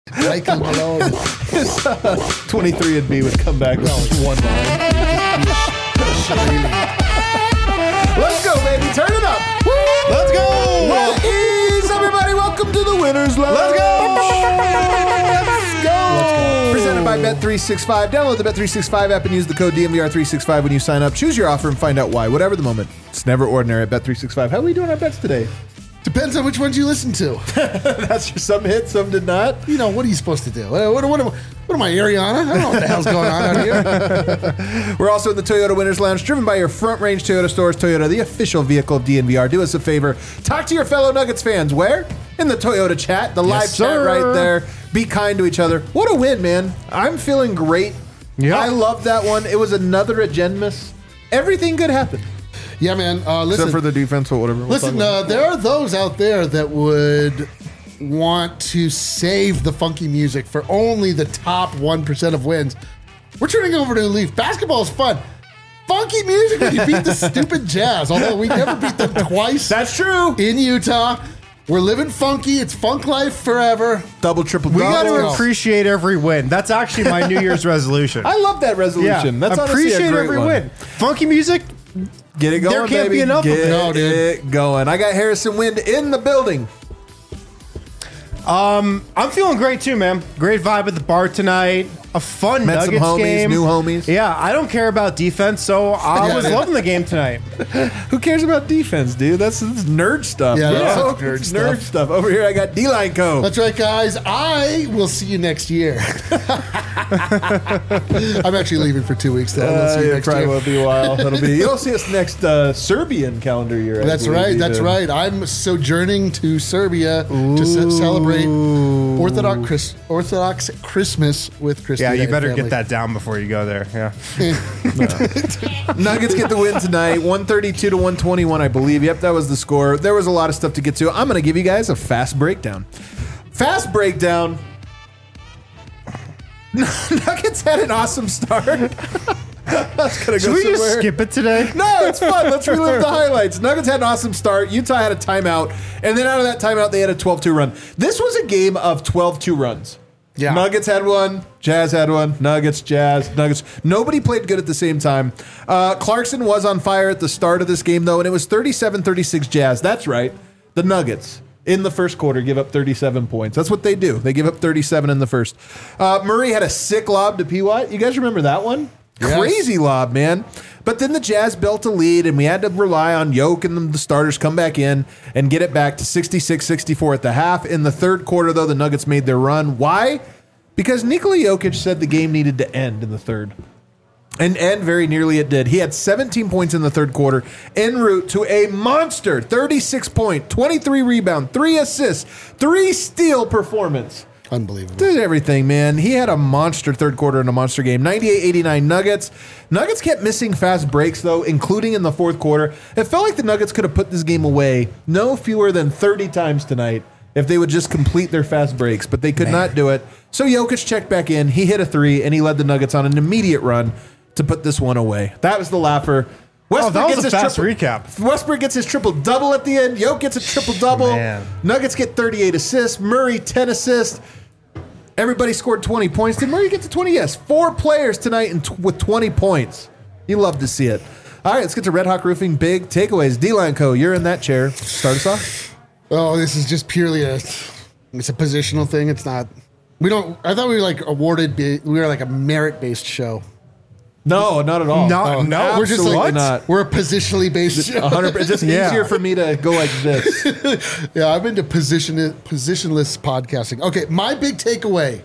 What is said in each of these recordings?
Michael Malone. 23andMe would come back with one line. Let's go, baby. Turn it up. Woo! Let's go. What is everybody? Welcome to the Winners Lounge. Let's go. Let's go. Presented by Bet365. Download the Bet365 app and use the code DMVR365 when you sign up. Choose your offer and find out why. Whatever the moment, it's never ordinary at Bet365. How are we doing our bets today? Depends on which ones you listen to. That's just some hit, some did not. You know, what are you supposed to do? What am I, Ariana? I don't know what the hell's going on out here. We're also in the Toyota Winners Lounge, driven by your Front Range Toyota stores. Toyota, the official vehicle of DNVR. Do us a favor. Talk to your fellow Nuggets fans. Where? In the Toyota chat. The live chat right there. Be kind to each other. What a win, man. I'm feeling great. Yeah. I love that one. It was another agendas. Everything good happened. Yeah, man. Listen, Except for the defense or whatever. listen, there are those out there that would want to save the funky music for only the top 1% of wins. We're turning over to Leaf. Basketball is fun. Funky music when you beat the stupid Jazz, although we never beat them twice. That's true. In Utah. We're living funky. It's funk life forever. Double, triple, We double. got to appreciate every win. That's actually my New Year's resolution. I love that resolution. That's honestly appreciate a great every one. win. Funky music. Get it going, There can't baby. be enough of Get it. No, dude. it going. I got Harrison Wind in the building. I'm feeling great too, man. Great vibe at the bar tonight. A fun Met some Nuggets homies, game. new homies. Yeah, I don't care about defense, so I Yeah, was dude. loving the game tonight. Who cares about defense, dude? That's nerd stuff. Yeah, bro. that's nerd Nerd stuff. stuff. Over here, I got D-Line Co. That's right, guys. I will see you next year. I'm actually leaving for 2 weeks, though. I'll see you It next probably year. will be a while. That'll be. You'll see us next Serbian calendar year. I That's believe, right. That's even. right. I'm sojourning to Serbia to celebrate Orthodox Christmas with Christy. Yeah, you and better family. get that down before you go there. Yeah. Nuggets get the win tonight, 132 to 121, I believe. Yep, that was the score. There was a lot of stuff to get to. I'm going to give you guys a fast breakdown. Fast breakdown. Nuggets had an awesome start. That's gonna Should go we just somewhere. skip it today? No, it's fun. Let's relive the highlights. Nuggets had an awesome start. Utah had a timeout. And then out of that timeout, they had a 12-2 run. This was a game of 12-2 runs. Yeah. Nuggets had one. Jazz had one. Nuggets, Jazz, Nuggets. Nobody played good at the same time. Clarkson was on fire at the start of this game, though, and it was 37-36 Jazz. That's right. The Nuggets in the first quarter give up 37 points. That's what they do. They give up 37 in the first. Murray had a sick lob to P. Watt. You guys remember that one? Yes. Crazy lob, man. But then the Jazz built a lead, and we had to rely on Yoke and the starters come back in and get it back to 66-64 at the half. In the third quarter, though, the Nuggets made their run. Why? Because Nikola Jokic said the game needed to end in the third. And very nearly it did. He had 17 points in the third quarter, en route to a monster 36-point, 23 rebound, 3 assists, 3 steal performance. Unbelievable. Did everything, man. He had a monster third quarter and a monster game. 98-89 Nuggets. Nuggets kept missing fast breaks, though, including in the fourth quarter. It felt like the Nuggets could have put this game away no fewer than 30 times tonight if they would just complete their fast breaks, but they could not do it. So Jokic checked back in. He hit a 3, and he led the Nuggets on an immediate run to put this one away. That was the laugher. That was a fast triple, recap. Westbrook gets his triple-double at the end. Jokic gets a triple-double. Man. Nuggets get 38 assists. Murray, 10 assists. Everybody scored 20 points. Did Murray get to 20? Yes. 4 players tonight with 20 points. You love to see it. All right, let's get to Red Hawk Roofing. Big takeaways. D-Line Co., you're in that chair. Start us off. Oh, this is just purely it's a positional thing. It's not. I thought we were like awarded. We were like a merit-based show. No, not at all. No, no. We're just absolutely like not. We're a positionally based show. 100%. It's just Yeah. easier for me to go like this. Yeah, I'm into positionless podcasting. Okay, my big takeaway.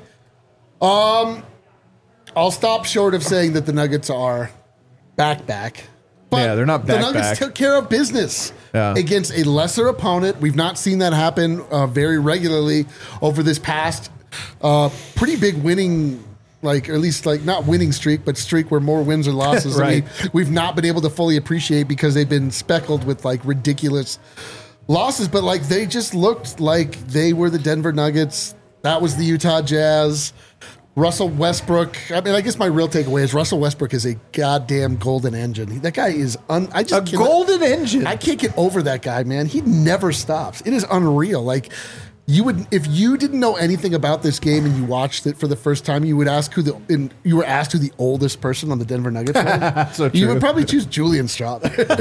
I'll stop short of saying that the Nuggets are back. But Yeah, they're not The back. Nuggets took care of business against a lesser opponent. We've not seen that happen very regularly over this past pretty big winning, or at least not winning streak, but streak where more wins or losses Right. we've not been able to fully appreciate because they've been speckled with ridiculous losses. But they just looked like they were the Denver Nuggets. That was the Utah Jazz. Russell Westbrook. I mean, I guess my real takeaway is Russell Westbrook is a goddamn golden engine. That guy is Golden engine. I can't get over that guy, man. He never stops. It is unreal. You would, if you didn't know anything about this game and you watched it for the first time, you would ask you were asked who the oldest person on the Denver Nuggets was. So you true. would probably choose Julian Straub,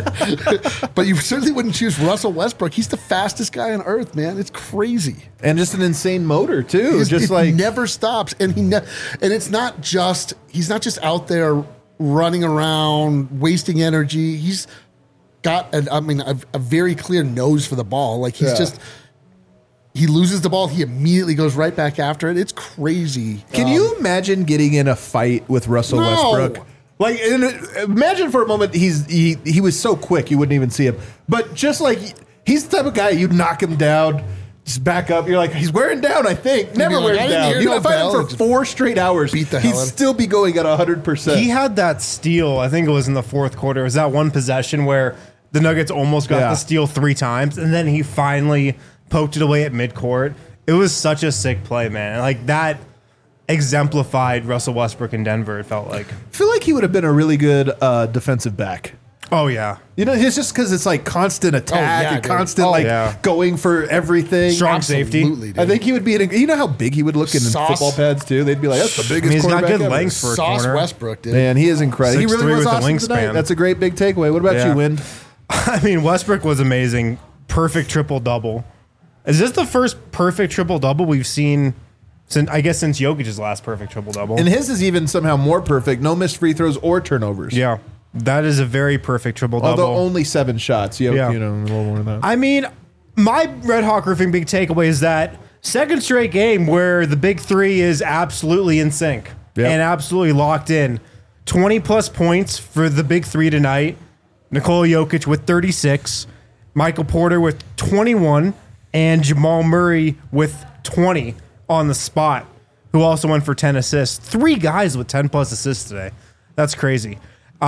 but you certainly wouldn't choose Russell Westbrook. He's the fastest guy on earth, man. It's crazy. And just an insane motor too. It never stops, and and it's not just he's not just out there running around wasting energy. He's got a very clear nose for the ball. Like he's just. He loses the ball. He immediately goes right back after it. It's crazy. Can you imagine getting in a fight with Russell Westbrook? Like, imagine for a moment he was so quick you wouldn't even see him. But just like he's the type of guy you'd knock him down, just back up. You're like, he's wearing down. I think never like, wearing down. You know, fight him for 4 straight hours. Beat the he'd hell out of still be going at 100%. He had that steal. I think it was in the fourth quarter. It was that one possession where the Nuggets almost got the steal 3 times, and then he finally poked it away at midcourt. It was such a sick play, man. Like that exemplified Russell Westbrook in Denver. It felt like. I feel like he would have been a really good defensive back. Oh yeah, You know, it's just because it's like constant attack and dude. constant going for everything. Strong safety. Absolutely, dude. I think he would be. You know how big he would look in football pads too. They'd be like, "That's the biggest." He's got quarterback good ever. length for a Sauce corner. Westbrook, dude. Man, he is incredible. He 6'3" really was with a awesome tonight. wingspan. That's a great big takeaway. What about Yeah. you, Wind? I mean, Westbrook was amazing. Perfect triple double. Is this the first perfect triple double we've seen since Jokic's last perfect triple double? And his is even somehow more perfect. No missed free throws or turnovers. Yeah, that is a very perfect triple double. Although only 7 shots. You know, a little more than that. I mean, my Red Hawk Roofing big takeaway is that second straight game where the big three is absolutely in sync and absolutely locked in. 20 plus points for the big three tonight. Nikola Jokic with 36, Michael Porter with 21, and Jamal Murray with 20 on the spot, who also went for 10 assists. 3 guys with 10 plus assists today. That's crazy.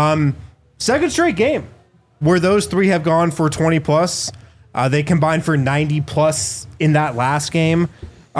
Second straight game where those 3 have gone for 20 plus. They combined for 90 plus in that last game.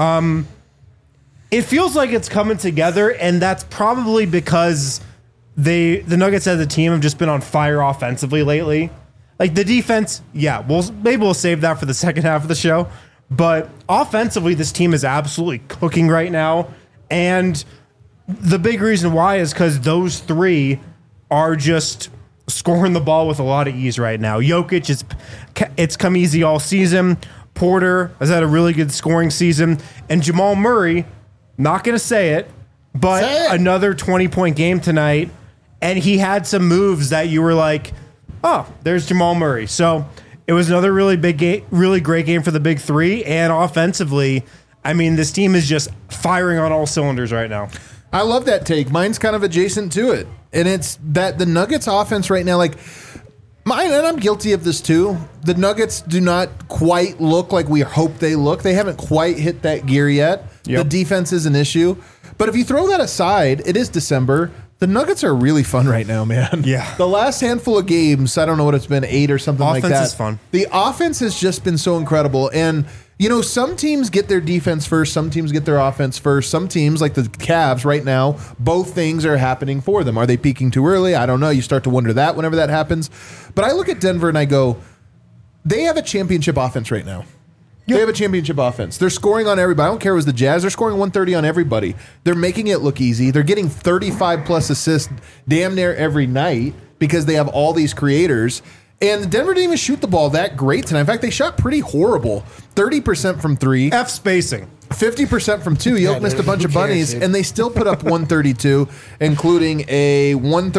It feels like it's coming together, and that's probably because the Nuggets as a team have just been on fire offensively lately. Like the defense, maybe we'll save that for the second half of the show. But offensively, this team is absolutely cooking right now. And the big reason why is because those 3 are just scoring the ball with a lot of ease right now. Jokic, it's come easy all season. Porter has had a really good scoring season. And Jamal Murray, not going to say it, but another 20-point game tonight. And he had some moves that you were like, oh, there's Jamal Murray. So it was another really big game, really great game for the big 3. And offensively, I mean, this team is just firing on all cylinders right now. I love that take. Mine's kind of adjacent to it. And it's that the Nuggets offense right now, like mine, and I'm guilty of this too. The Nuggets do not quite look like we hope they look. They haven't quite hit that gear yet. Yep. The defense is an issue. But if you throw that aside, it is December. The Nuggets are really fun right now, man. Yeah. The last handful of games, I don't know what it's been, 8 or something like that. Offense is fun. The offense has just been so incredible. And, you know, some teams get their defense first. Some teams get their offense first. Some teams, like the Cavs right now, both things are happening for them. Are they peaking too early? I don't know. You start to wonder that whenever that happens. But I look at Denver and I go, they have a championship offense right now. They have a championship offense. They're scoring on everybody. I don't care if it was the Jazz. They're scoring 130 on everybody. They're making it look easy. They're getting 35-plus assists damn near every night because they have all these creators. And Denver didn't even shoot the ball that great tonight. In fact, they shot pretty horrible. 30% from 3. F spacing. 50% from 2. Yoke missed a bunch of bunnies, dude? and they still put up 132, including a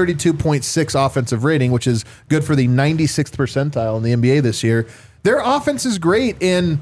132.6 offensive rating, which is good for the 96th percentile in the NBA this year. Their offense is great, and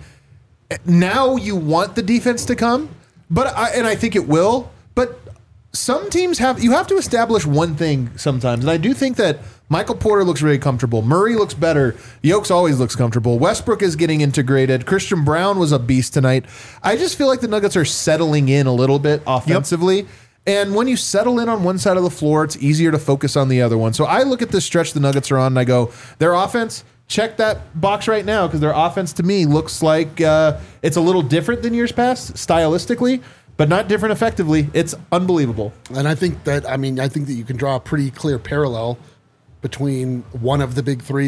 now you want the defense to come, and I think it will. But some teams you have to establish one thing sometimes, and I do think that Michael Porter looks really comfortable. Murray looks better. Yokes always looks comfortable. Westbrook is getting integrated. Christian Brown was a beast tonight. I just feel like the Nuggets are settling in a little bit offensively. Yep. And when you settle in on one side of the floor, it's easier to focus on the other one. So I look at this stretch the Nuggets are on, and I go, their offense, check that box right now, because their offense to me looks like it's a little different than years past stylistically, but not different effectively. It's unbelievable. And I think that you can draw a pretty clear parallel between one of the big 3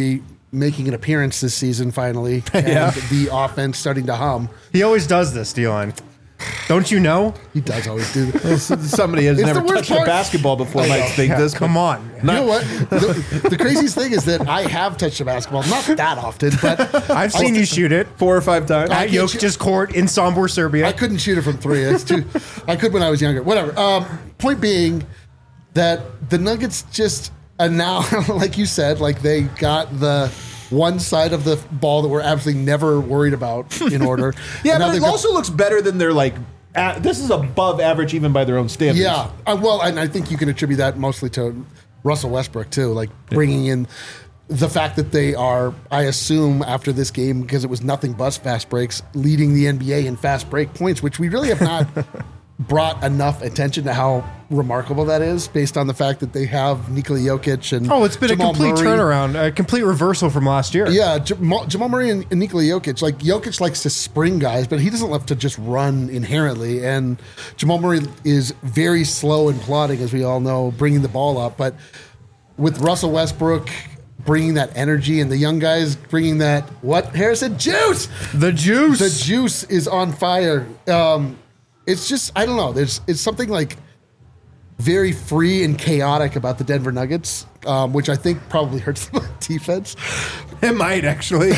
making an appearance this season finally, and Yeah. the offense starting to hum. He always does this, D-line. Don't you know? He does always do that. Somebody has It's never the worst touched a part. basketball before might think this. Come on. You know what? The craziest thing is that I have touched a basketball, not that often, but I've seen you shoot it 4 or 5 times. at can't Jokic's court in Sombor, Serbia. I couldn't shoot it from 3. That's too. I could when I was younger. Whatever. Point being that the Nuggets just now, like you said, like they got the one side of the ball that we're absolutely never worried about in order. Yeah, And now but it they've got- also looks better than their this is above average even by their own standards. Yeah. Well, and I think you can attribute that mostly to Russell Westbrook, too. Like bringing in the fact that they are, I assume, after this game, because it was nothing but fast breaks, leading the NBA in fast break points, which we really have not brought enough attention to how remarkable that is based on the fact that they have Nikola Jokic and Oh, it's been Jamal a complete Murray. turnaround, a complete reversal from last year. Yeah, Jamal Murray and Nikola Jokic. Like Jokic likes to spring guys, but he doesn't love to just run inherently. And Jamal Murray is very slow and plodding, as we all know, bringing the ball up. But with Russell Westbrook bringing that energy and the young guys bringing that Harrison juice. The juice. The juice is on fire. It's just I don't know. It's something like very free and chaotic about the Denver Nuggets, which I think probably hurts them on defense. It might actually.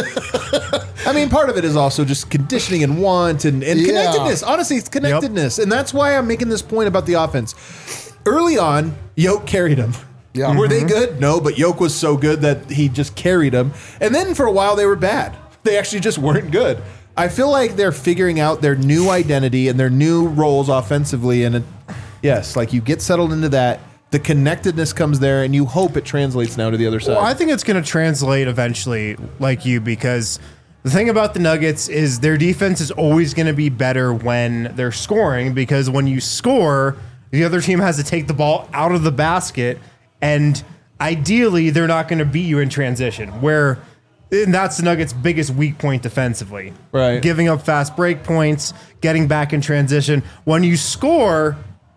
I mean, part of it is also just conditioning and want and connectedness. Honestly, it's connectedness. And that's why I'm making this point about the offense. Early on, Yoke carried him. Yeah. Were they good? No, but Yoke was so good that he just carried him. And then for a while, they were bad. They actually just weren't good. I feel like they're figuring out their new identity and their new roles offensively. And yes, like you get settled into that. The connectedness comes there, and you hope it translates now to the other side. Well, I think it's going to translate eventually, like you, because the thing about the Nuggets is their defense is always going to be better when they're scoring, because when you score, the other team has to take the ball out of the basket, and ideally, they're not going to beat you in transition, and that's the Nuggets' biggest weak point defensively. Right. Giving up fast break points, getting back in transition. When you score,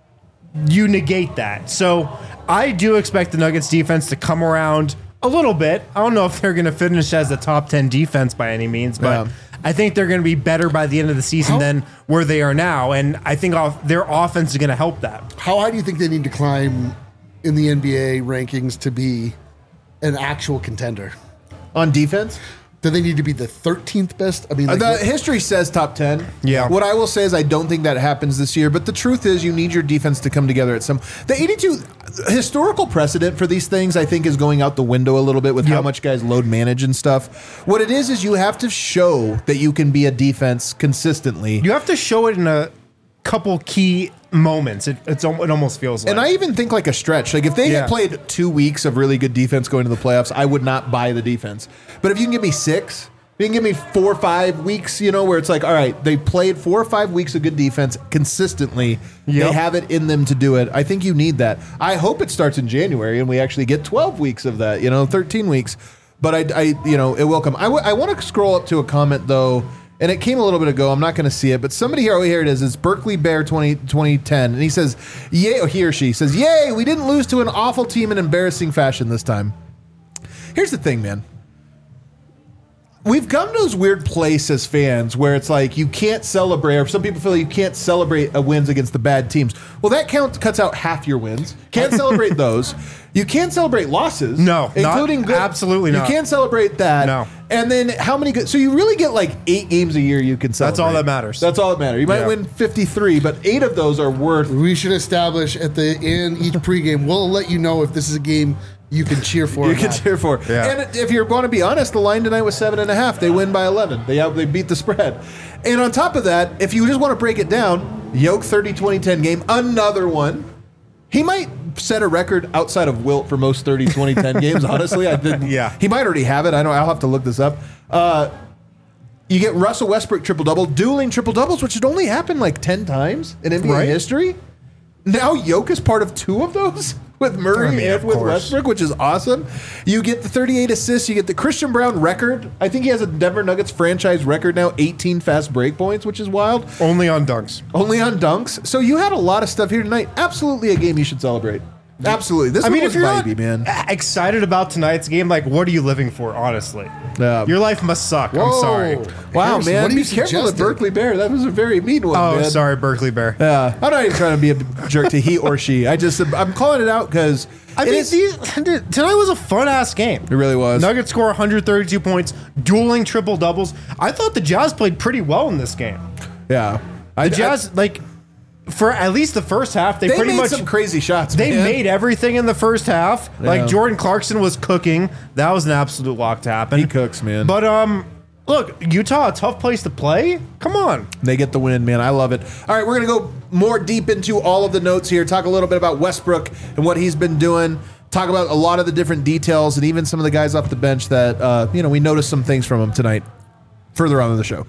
you negate that. So I do expect the Nuggets defense to come around a little bit. I don't know if they're going to finish as a top 10 defense by any means, but Yeah. I think they're going to be better by the end of the season than where they are now. And I think their offense is going to help that. How high do you think they need to climb in the NBA rankings to be an actual contender? On defense? Do they need to be the 13th best? I mean, like, The history says top 10. Yeah. What I will say is I don't think that happens this year, but the truth is you need your defense to come together at some. The 82 historical precedent for these things, I think, is going out the window a little bit with how Yep. much guys load manage and stuff. What it is you have to show that you can be a defense consistently. You have to show it in a couple key moments. It almost feels like. And I even think like a stretch. Like if they Yeah. had played 2 weeks of really good defense going to the playoffs, I would not buy the defense. But if you can give me 6, if you can give me 4 or 5 weeks, where it's like, all right, they played 4 or 5 weeks of good defense consistently. Yep. They have it in them to do it. I think you need that. I hope it starts in January and we actually get 12 weeks of that, 13 weeks. But it will come. I want to scroll up to a comment though. And it came a little bit ago. I'm not going to see it, but somebody here, here it is. It's Berkeley Bear 2010. And he says, yay, or he or she says, yay, we didn't lose to an awful team in embarrassing fashion this time. Here's the thing, man. We've come to this weird place as fans where it's like you can't celebrate, or some people feel like you can't celebrate wins against the bad teams. Well, that cuts out half your wins. Can't celebrate those. You can't celebrate losses. No, including good. absolutely not. You can't celebrate that. No. And then how many good? So you really get like 8 games a year you can celebrate. That's all that matters. That's all that matters. You might Yeah. win 53, but 8 of those are worth. we should establish at the end each pregame. We'll let you know if this is a game you can cheer for. You or can not. cheer for. Yeah. And if you're going to be honest, the line tonight was 7.5. They win by 11. They beat the spread. And on top of that, if you just want to break it down, Yoke 30-20-10 game, another one. He might set a record outside of Wilt for most 30-20-10 games. Honestly, I think Yeah. he might already have it. I'll have to look this up. You get Russell Westbrook triple-double, dueling triple-doubles, which had only happened like 10 times in NBA Right. history. Now Yoke is part of 2 of those with Murray I mean, and of with course. Westbrook, which is awesome. You get the 38 assists. You get the Christian Brown record. I think he has a Denver Nuggets franchise record now, 18 fast break points, which is wild. only on dunks. Only on dunks. So you had a lot of stuff here tonight. Absolutely a game you should celebrate. Absolutely. This I one mean, was if you're vibey, not man. excited about tonight's game, like, what are you living for, honestly? Yeah. Your life must suck. I'm Whoa. sorry. Wow, Harrison, man. what are Be you careful with suggesting? Berkeley Bear. That was a very mean one, Oh, man. sorry, Berkeley Bear. Yeah. I'm not even trying to be a jerk to he or she. I'm calling it out because I mean, tonight was a fun-ass game. it really was. Nuggets score 132 points, dueling triple-doubles. I thought the Jazz played pretty well in this game. Yeah. The Jazz, for at least the first half, they pretty made much some crazy shots. They man. made everything in the first half. Yeah. Like Jordan Clarkson was cooking. That was an absolute lock to happen. He cooks, man. But look, Utah, a tough place to play. Come on. They get the win, man. I love it. All right, we're going to go more deep into all of the notes here, talk a little bit about Westbrook and what he's been doing, talk about a lot of the different details and even some of the guys off the bench that, we noticed some things from him tonight further on in the show.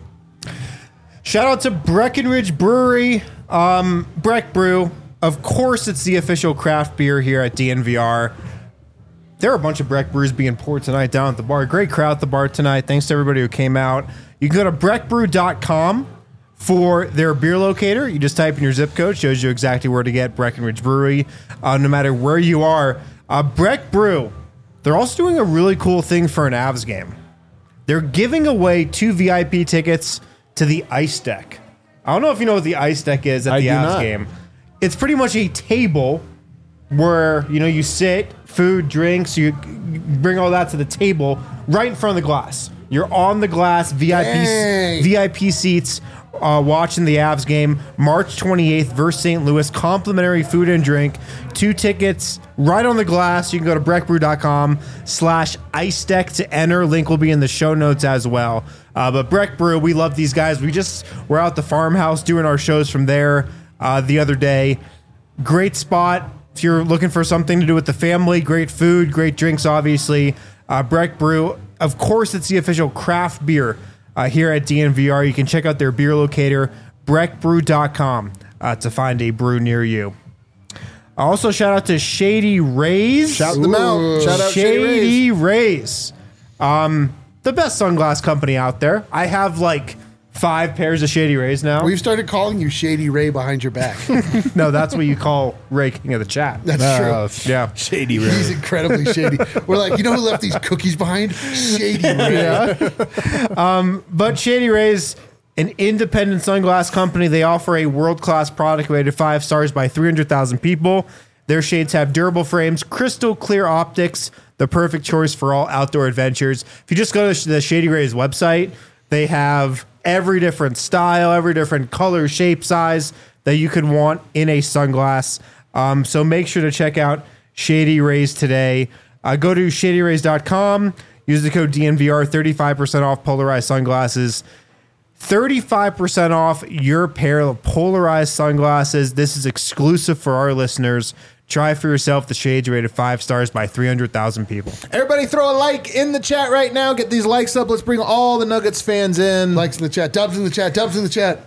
Shout out to Breckenridge Brewery, Breck Brew. Of course, it's the official craft beer here at DNVR. There are a bunch of Breck brews being poured tonight down at the bar. Great crowd at the bar tonight. Thanks to everybody who came out. You can go to breckbrew.com for their beer locator. You just type in your zip code, shows you exactly where to get Breckenridge Brewery, no matter where you are. Breck Brew, they're also doing a really cool thing for an Avs game. They're giving away 2 VIP tickets to the Ice Deck. I don't know if you know what the Ice Deck is at the Avs game. It's pretty much a table where, you sit, food, drinks, you bring all that to the table right in front of the glass. You're on the glass, VIP seats, watching the Avs game, March 28th versus St. Louis, complimentary food and drink, 2 tickets right on the glass. You can go to breckbrew.com/ice deck to enter. Link will be in the show notes as well. But Breck Brew, we love these guys. We're out at the farmhouse doing our shows from there the other day. Great spot. If you're looking for something to do with the family, great food, great drinks, obviously. Breck Brew, of course, it's the official craft beer here at DNVR. You can check out their beer locator, breckbrew.com, to find a brew near you. Also, shout out to Shady Rays. Shout them out. Shout out Shady Rays. The best sunglass company out there. I have 5 pairs of Shady Rays now. We've started calling you Shady Ray behind your back. No, that's what you call Ray King of the chat. That's true. Yeah. Shady Ray. He's incredibly shady. We're like, you know who left these cookies behind? Shady Ray. But Shady Rays, an independent sunglass company, they offer a world-class product rated 5 stars by 300,000 people. Their shades have durable frames, crystal clear optics, the perfect choice for all outdoor adventures. If you just go to the Shady Rays website, they have every different style, every different color, shape, size that you could want in a sunglass. So make sure to check out Shady Rays today. Go to shadyrays.com, use the code DNVR, 35% off polarized sunglasses. 35% off your pair of polarized sunglasses. This is exclusive for our listeners. Try for yourself the shades rated 5 stars by 300,000 people. Everybody throw a like in the chat right now. Get these likes up. Let's bring all the Nuggets fans in. Likes in the chat. Dubs in the chat. Dubs in the chat.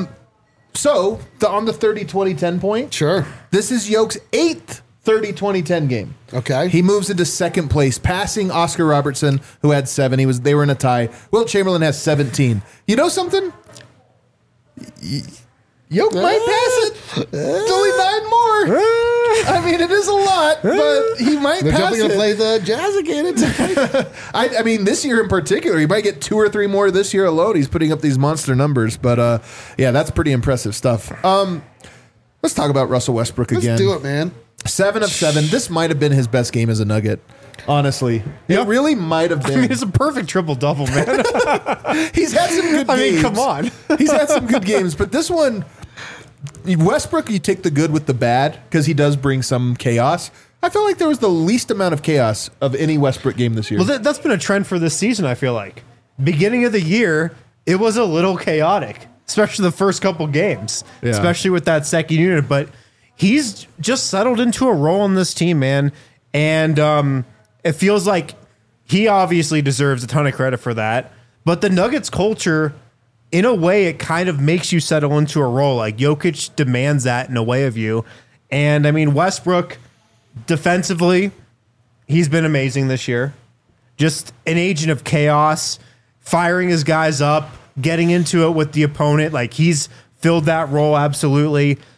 So, on the 30-20-10 point, Sure. this is Yoke's 8th 30-20-10 game. Okay. He moves into second place, passing Oscar Robertson, who had 7. They were in a tie. Wilt Chamberlain has 17. You know something? Yoke might pass it. It's only 9 more. I mean, it is a lot, but he might They're pass definitely going to it. play the Jazz again. It's okay. I mean, this year in particular, he might get 2 or 3 more this year alone. He's putting up these monster numbers, but yeah, that's pretty impressive stuff. Let's talk about Russell Westbrook again. Let's do it, man. 7 of 7. This might have been his best game as a Nugget. Honestly, it really might have been. I mean, it's a perfect triple-double, man. He's had some good games. I mean, come on. He's had some good games, but this one, Westbrook, you take the good with the bad because he does bring some chaos. I feel like there was the least amount of chaos of any Westbrook game this year. Well, that's been a trend for this season, I feel like. Beginning of the year, it was a little chaotic, especially the first couple games, Yeah. especially with that second unit. But he's just settled into a role in this team, man. And it feels like he obviously deserves a ton of credit for that. But the Nuggets culture, in a way, it kind of makes you settle into a role. Like Jokic demands that in a way of you. And I mean, Westbrook, defensively, he's been amazing this year. Just an agent of chaos, firing his guys up, getting into it with the opponent. Like he's filled that role absolutely.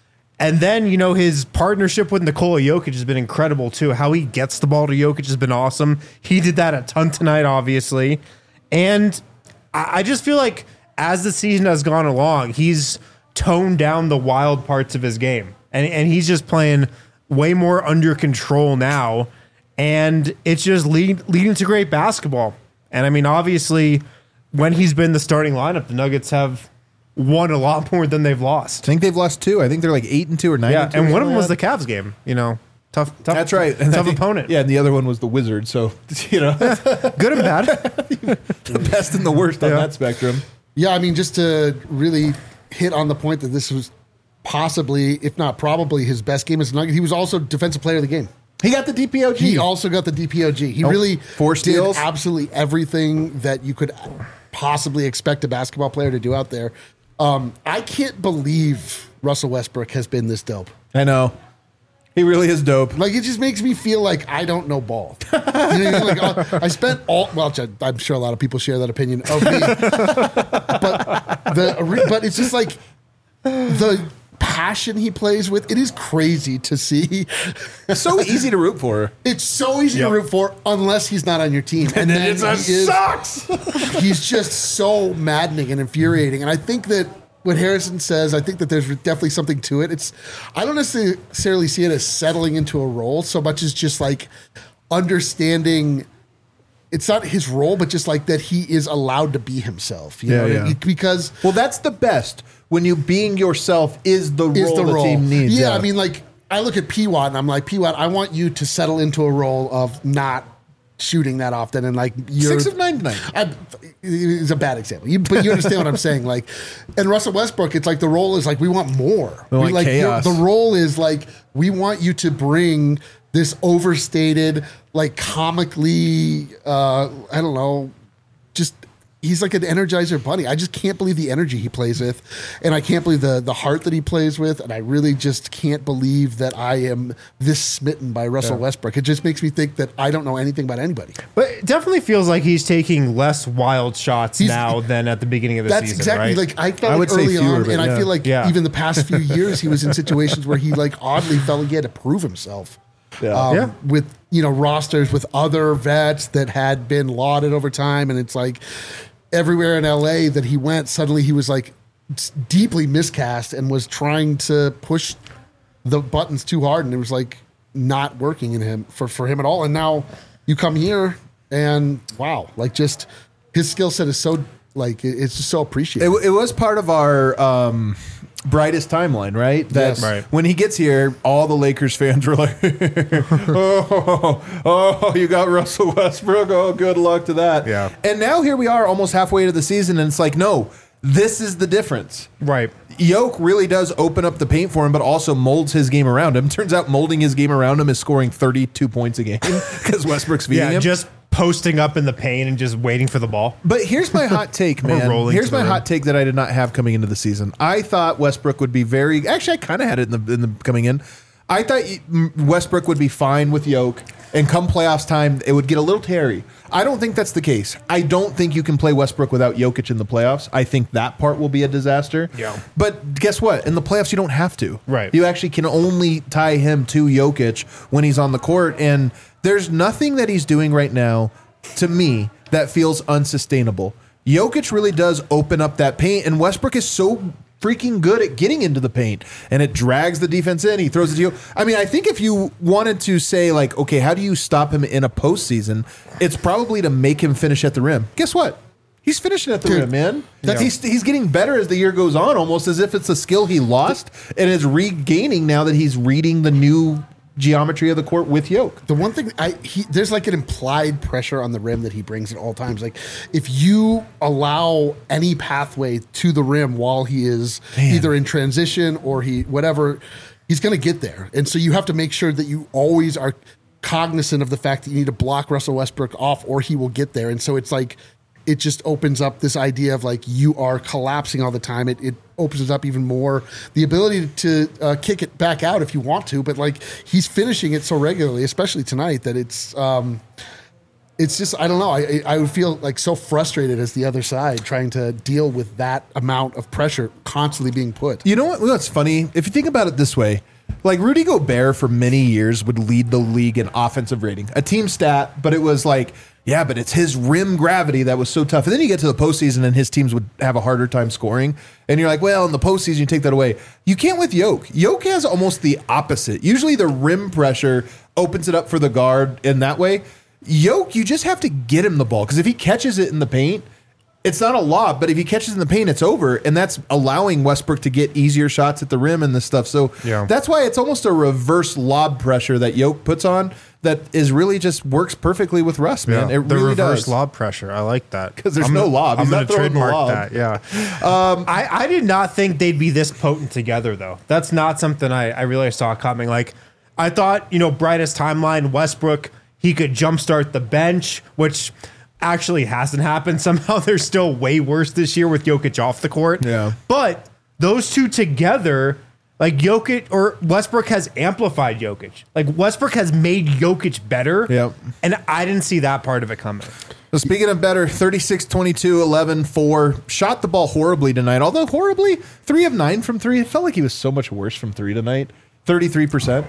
And then, his partnership with Nikola Jokic has been incredible too. How he gets the ball to Jokic has been awesome. He did that a ton tonight, obviously. And I just feel like as the season has gone along, he's toned down the wild parts of his game. And he's just playing way more under control now. And it's just leading to great basketball. And I mean, obviously, when he's been the starting lineup, the Nuggets have won a lot more than they've lost. I think they've lost 2. I think they're like 8-2 or 9-2. Yeah, and one of them was the Cavs game. Tough. That's right. And Tough opponent. Yeah, and the other one was the Wizards. So, Good and bad. the best and the worst on that spectrum. Yeah, I mean, just to really hit on the point that this was possibly, if not probably, his best game as a Nugget. He was also Defensive Player of the Game. He got the DPOG. He also got the DPOG. He really 4 steals. did absolutely everything that you could possibly expect a basketball player to do out there. I can't believe Russell Westbrook has been this dope. I know. He really is dope. Like, it just makes me feel like I don't know ball. You know what I mean? Like, I spent I'm sure a lot of people share that opinion of me. But it's just like the passion he plays with. It is crazy to see. It's so easy to root for. It's so easy to root for unless he's not on your team. And then sucks. He's just so maddening and infuriating. And I think that what Harrison says, I think that there's definitely something to it. I don't necessarily see it as settling into a role so much as just like understanding it's not his role, but just like that he is allowed to be himself. You know? Because that's the best. When you being yourself is the role the team needs. Yeah, I mean, like, I look at P-Watt and I'm like, P-Watt, I want you to settle into a role of not shooting that often. And like, you're 6 of 9 tonight. It's a bad example, but you understand what I'm saying. Like, and Russell Westbrook, it's like the role is like, we want more. We want chaos. The role is like, we want you to bring this overstated, like comically, I don't know, just he's like an Energizer bunny. I just can't believe the energy he plays with, and I can't believe the heart that he plays with, and I really just can't believe that I am this smitten by Russell Westbrook. It just makes me think that I don't know anything about anybody. But it definitely feels like he's taking less wild shots now than at the beginning of the season. That's exactly right? like I felt like early on, and I feel like even the past few years he was in situations where he like oddly felt like he had to prove himself. With rosters with other vets that had been lauded over time, and it's like everywhere in LA that he went, suddenly he was like deeply miscast and was trying to push the buttons too hard, and it was like not working in him for him at all. And now you come here and wow, like just his skill set is so like it's just so appreciated. It was part of our brightest timeline, right? Right. When he gets here, all the Lakers fans were like, oh, you got Russell Westbrook. Oh, good luck to that. Yeah. And now here we are almost halfway to the season, and it's like, no, this is the difference. Right. Yoke really does open up the paint for him, but also molds his game around him. Turns out molding his game around him is scoring 32 points a game because Westbrook's feeding him. Just posting up in the paint and just waiting for the ball. But here's my hot take, man. Here's my hot take that I did not have coming into the season. I thought Westbrook would be actually, I kind of had it in the coming in. I thought Westbrook would be fine with Yoke, and come playoffs time, it would get a little teary. I don't think that's the case. I don't think you can play Westbrook without Jokic in the playoffs. I think that part will be a disaster. Yeah. But guess what? In the playoffs, you don't have to. Right. You actually can only tie him to Jokic when he's on the court, and there's nothing that he's doing right now, to me, that feels unsustainable. Jokic really does open up that paint, and Westbrook is so freaking good at getting into the paint, and it drags the defense in. He throws it to you. I mean, I think if you wanted to say, like, okay, how do you stop him in a postseason? It's probably to make him finish at the rim. Guess what? He's finishing at the rim, man. He's getting better as the year goes on, almost as if it's a skill he lost and is regaining now that he's reading the new geometry of the court with Yoke. The one thing there's like an implied pressure on the rim that he brings at all times. Like if you allow any pathway to the rim while he is either in transition or whatever, he's going to get there. And so you have to make sure that you always are cognizant of the fact that you need to block Russell Westbrook off or he will get there. And so it's like, it just opens up this idea of like you are collapsing all the time. It opens up even more the ability to kick it back out if you want to, but like he's finishing it so regularly, especially tonight, that it's it's just, I don't know. I would feel like so frustrated as the other side trying to deal with that amount of pressure constantly being put. You know what? What's funny? If you think about it this way, like Rudy Gobert for many years would lead the league in offensive rating, a team stat, but it was like, yeah, but it's his rim gravity that was so tough. And then you get to the postseason and his teams would have a harder time scoring. And you're like, well, in the postseason, you take that away. You can't with Yoke. Yoke has almost the opposite. Usually the rim pressure opens it up for the guard in that way. Yoke, you just have to get him the ball, because if he catches it in the paint, it's not a lob, but if he catches in the paint, it's over, and that's allowing Westbrook to get easier shots at the rim and this stuff. So that's why it's almost a reverse lob pressure that Yoke puts on that is really just works perfectly with Russ, man. It the really reverse does. lob pressure. I like that. Because there's no lob. I'm He's going not to throwing the trademark lob. that, yeah. I did not think they'd be this potent together, though. That's not something I really saw coming. Like, I thought, brightest timeline, Westbrook, he could jumpstart the bench, which actually hasn't happened. Somehow they're still way worse this year with Jokic off the court. Yeah. But those two together, like Jokic or Westbrook has amplified Jokic. Like Westbrook has made Jokic better. Yep. And I didn't see that part of it coming. So speaking of better, 36, 22, 11, 4, shot the ball horribly tonight. Although horribly, 3 of 9 from 3. It felt like he was so much worse from 3 tonight. 33%.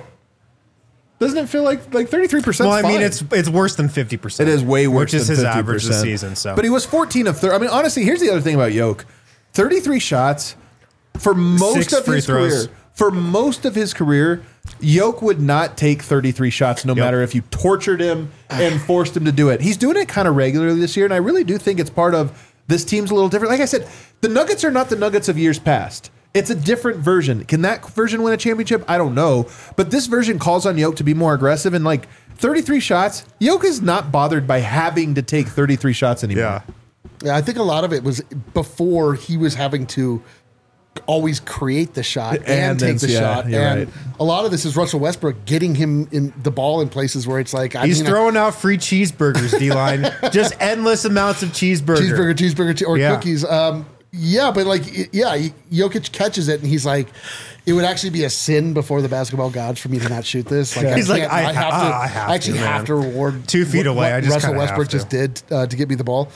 Doesn't it feel like 33%? Well, I mean, it's worse than 50%. It is way worse which is than his 50%. average this season. So, but he was 14 of 30. I mean, honestly, here's the other thing about Yoke: 33 shots for most 6 of free his throws. career. For most of his career, Yoke would not take 33 shots, no matter if you tortured him and forced him to do it. He's doing it kind of regularly this year, and I really do think it's part of this team's a little different. Like I said, the Nuggets are not the Nuggets of years past. It's a different version. Can that version win a championship? I don't know. But this version calls on Yoke to be more aggressive. And like 33 shots, Yoke is not bothered by having to take 33 shots anymore. Yeah, I think a lot of it was before he was having to always create the shot and take the shot. And a lot of this is Russell Westbrook getting him in the ball in places where it's like... He's throwing out free cheeseburgers, D-line. Just endless amounts of cheeseburger, or cookies. Yeah, but Jokic catches it and he's like, it would actually be a sin before the basketball gods for me to not shoot this. Like, he's I have to reward 2 feet away. I just Russell Westbrook just did to get me the ball.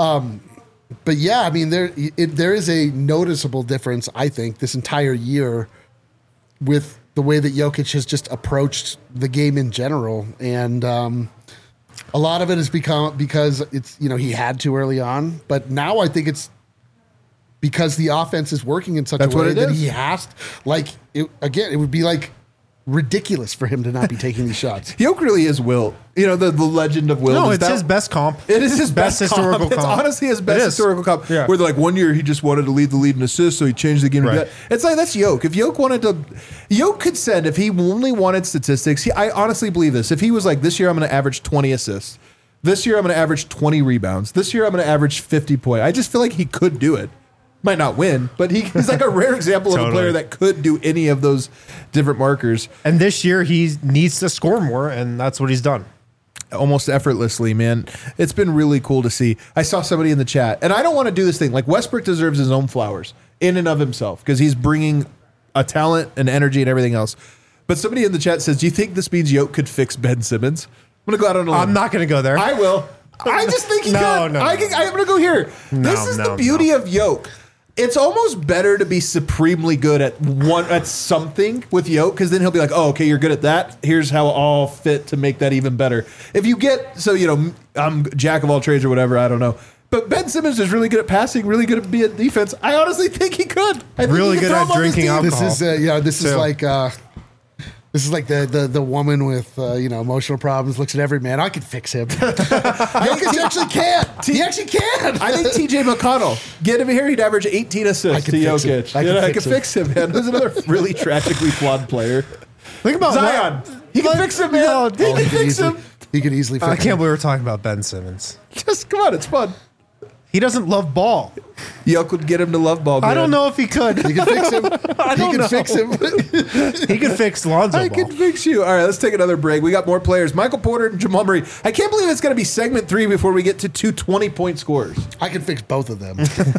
But yeah, I mean, there is a noticeable difference, I think, this entire year with the way that Jokic has just approached the game in general. And a lot of it has become because it's, he had to early on. But now I think it's because the offense is working in such a way that he has to, it would be like ridiculous for him to not be taking these shots. Yoke really is Wilt. The legend of Wilt. No, it's his best comp. It is his best historical comp. It's honestly his best historical comp. Yeah. Where they're like, 1 year he just wanted to lead the lead in assists, so he changed the game to that. It's like, that's Yoke. If Yoke wanted to, Yoke could send, if he only wanted statistics, I honestly believe this. If he was like, this year I'm going to average 20 assists. This year I'm going to average 20 rebounds. This year I'm going to average 50 points. I just feel like he could do it. Might not win, but he's like a rare example of a player that could do any of those different markers. And this year he needs to score more, and that's what he's done. Almost effortlessly, man. It's been really cool to see. I saw somebody in the chat, and I don't want to do this thing. Like, Westbrook deserves his own flowers in and of himself because he's bringing a talent and energy and everything else. But somebody in the chat says, do you think this means Yoke could fix Ben Simmons? I'm going to go out on a limb. I'm not going to go there. I will. I just think he could. I'm going to go here. This is the beauty of Yoke. It's almost better to be supremely good at something with Yoke, because then he'll be like, oh, okay, you're good at that. Here's how I'll fit to make that even better. If you get, I'm jack of all trades or whatever, I don't know. But Ben Simmons is really good at passing, really good at being defense. I honestly think he could. I think really good at drinking alcohol. This is like the woman with emotional problems looks at every man. I could fix him. Jokic actually can. He actually can. I think TJ McConnell, get him here, he'd average 18 assists to Jokic. I could fix him, man. Who's another really tragically flawed player? Think about Zion. He can fix him, man. He can fix him. He can easily fix him. I can't believe we're talking about Ben Simmons. Just come on, it's fun. He doesn't love ball. Yoke would get him to love ball, man. I don't know if he could. He can fix him. He could fix Lonzo Ball. I can fix you. All right, let's take another break. We got more players. Michael Porter and Jamal Murray. I can't believe it's going to be segment 3 before we get to 2 20-point scores. I can fix both of them.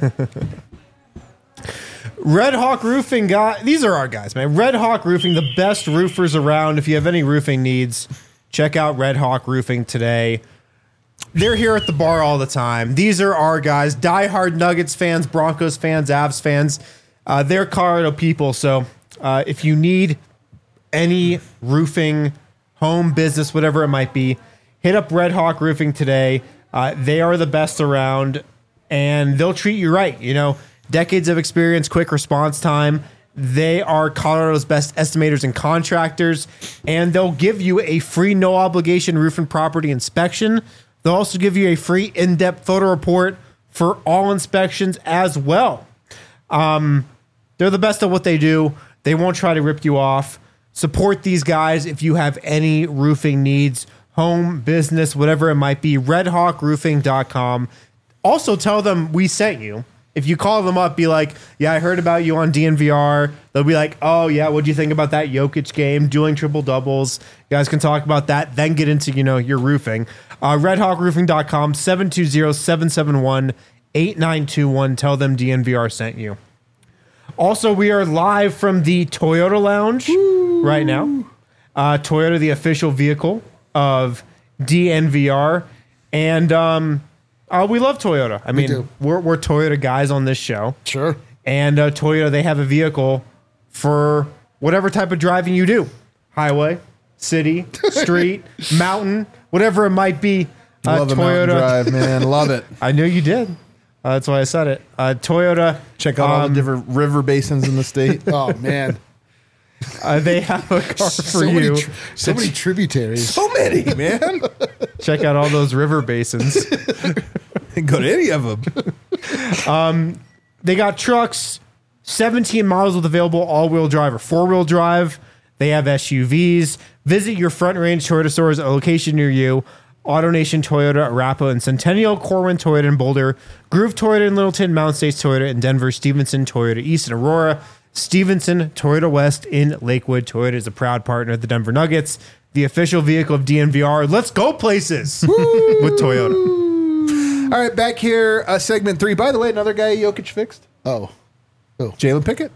Red Hawk Roofing guy. These are our guys, man. Red Hawk Roofing, the best roofers around. If you have any roofing needs, check out Red Hawk Roofing today. they're here at the bar all the time. These are our guys, diehard Nuggets fans, Broncos fans, Avs fans. They're Colorado people. So if you need any roofing, home, business, whatever it might be, hit up Red Hawk Roofing today. They are the best around, and they'll treat you right. You know, decades of experience, quick response time. They are Colorado's best estimators and contractors, and they'll give you a free no obligation roof and property inspection. They'll also give you a free in-depth photo report for all inspections as well. They're the best at what they do. They won't try to rip you off. Support these guys if you have any roofing needs, home, business, whatever it might be. RedHawkRoofing.com. Also tell them we sent you. If you call them up, be like, yeah, I heard about you on DNVR. They'll be like, oh, yeah, what'd you think about that Jokic game, doing triple doubles? You guys can talk about that, then get into, your roofing. RedHawkRoofing.com, 720-771-8921. Tell them DNVR sent you. Also, we are live from the Toyota Lounge right now. Toyota, the official vehicle of DNVR. And we love Toyota. I mean, we're Toyota guys on this show. Sure. And Toyota, they have a vehicle for whatever type of driving you do. Highway, city, street, mountain, whatever it might be. Love a mountain drive, man. Love it. I knew you did. That's why I said it. Toyota. Check out all the different river basins in the state. Oh, man. They have a car for you. So many tributaries. So many, man. Check out all those river basins. Go to any of them. They got trucks, 17 models with available all-wheel drive or four-wheel drive. They have SUVs. Visit your Front Range Toyota stores at a location near you. AutoNation Toyota, Arapahoe and Centennial, Corwin Toyota in Boulder, Groove Toyota in Littleton, Mountain States Toyota in Denver, Stevenson Toyota East in Aurora, Stevenson Toyota West in Lakewood. Toyota is a proud partner of the Denver Nuggets, the official vehicle of DNVR. Let's go places with Toyota. All right, back here, segment 3. By the way, another guy Jokic fixed. Oh. Jalen Pickett.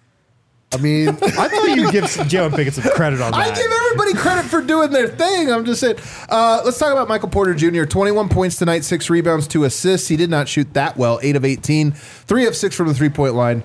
I mean, I thought you'd give Jalen Pickett some credit on that. I give everybody credit for doing their thing. I'm just saying. Let's talk about Michael Porter Jr. 21 points tonight, 6 rebounds, 2 assists. He did not shoot that well. 8 of 18, 3 of 6 from the three-point line.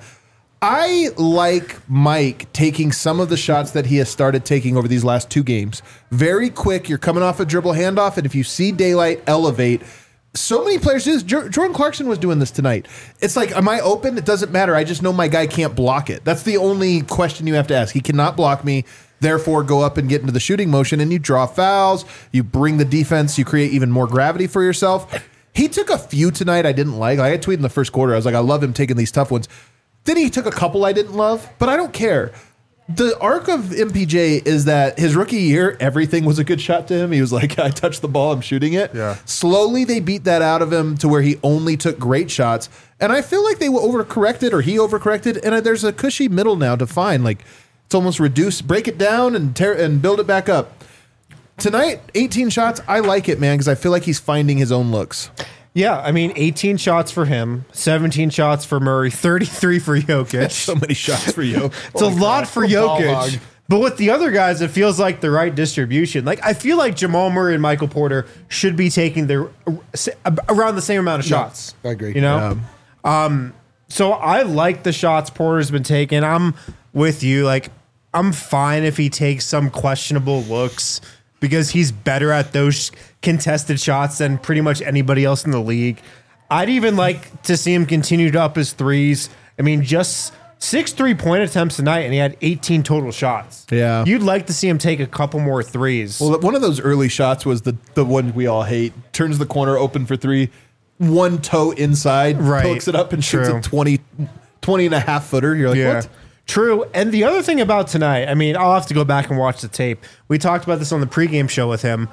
I like Mike taking some of the shots that he has started taking over these last 2 games. Very quick. You're coming off a dribble handoff, and if you see daylight, elevate. So many players do this. Jordan Clarkson was doing this tonight. It's like, am I open? It doesn't matter. I just know my guy can't block it. That's the only question you have to ask. He cannot block me. Therefore, go up and get into the shooting motion, and you draw fouls. You bring the defense. You create even more gravity for yourself. He took a few tonight I didn't like. I had tweeted in the first quarter. I was like, I love him taking these tough ones. Then he took a couple I didn't love, but I don't care. The arc of MPJ is that his rookie year, everything was a good shot to him. He was like, I touched the ball, I'm shooting it. Yeah. Slowly, they beat that out of him to where he only took great shots. And I feel like they overcorrected, or he overcorrected, and there's a cushy middle now to find. Like, it's almost reduced, break it down and build it back up. Tonight, 18 shots, I like it, man, because I feel like he's finding his own looks. Yeah, I mean, 18 shots for him, 17 shots for Murray, 33 for Jokic. So many shots for you. It's a lot for Jokic. But with the other guys, it feels like the right distribution. Like, I feel like Jamal Murray and Michael Porter should be taking around the same amount of shots. I agree. You know? Yeah. So I like the shots Porter's been taking. I'm with you. Like, I'm fine if he takes some questionable looks because he's better at those contested shots than pretty much anybody else in the league. I'd even like to see him continue to up his threes. I mean, just 6 3-point attempts tonight, and he had 18 total shots. Yeah. You'd like to see him take a couple more threes. Well, one of those early shots was the one we all hate. Turns the corner open for 3, one toe inside, pokes it up and shoots a 20 and a half footer. You're like, what? True. And the other thing about tonight, I mean, I'll have to go back and watch the tape. We talked about this on the pregame show with him.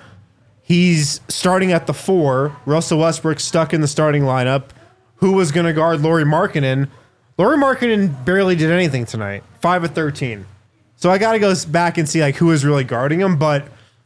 He's starting at the 4. Russell Westbrook stuck in the starting lineup. Who was going to guard Lauri Markkanen? Lauri Markkanen barely did anything tonight. 5 of 13. So I got to go back and see like who was really guarding him. But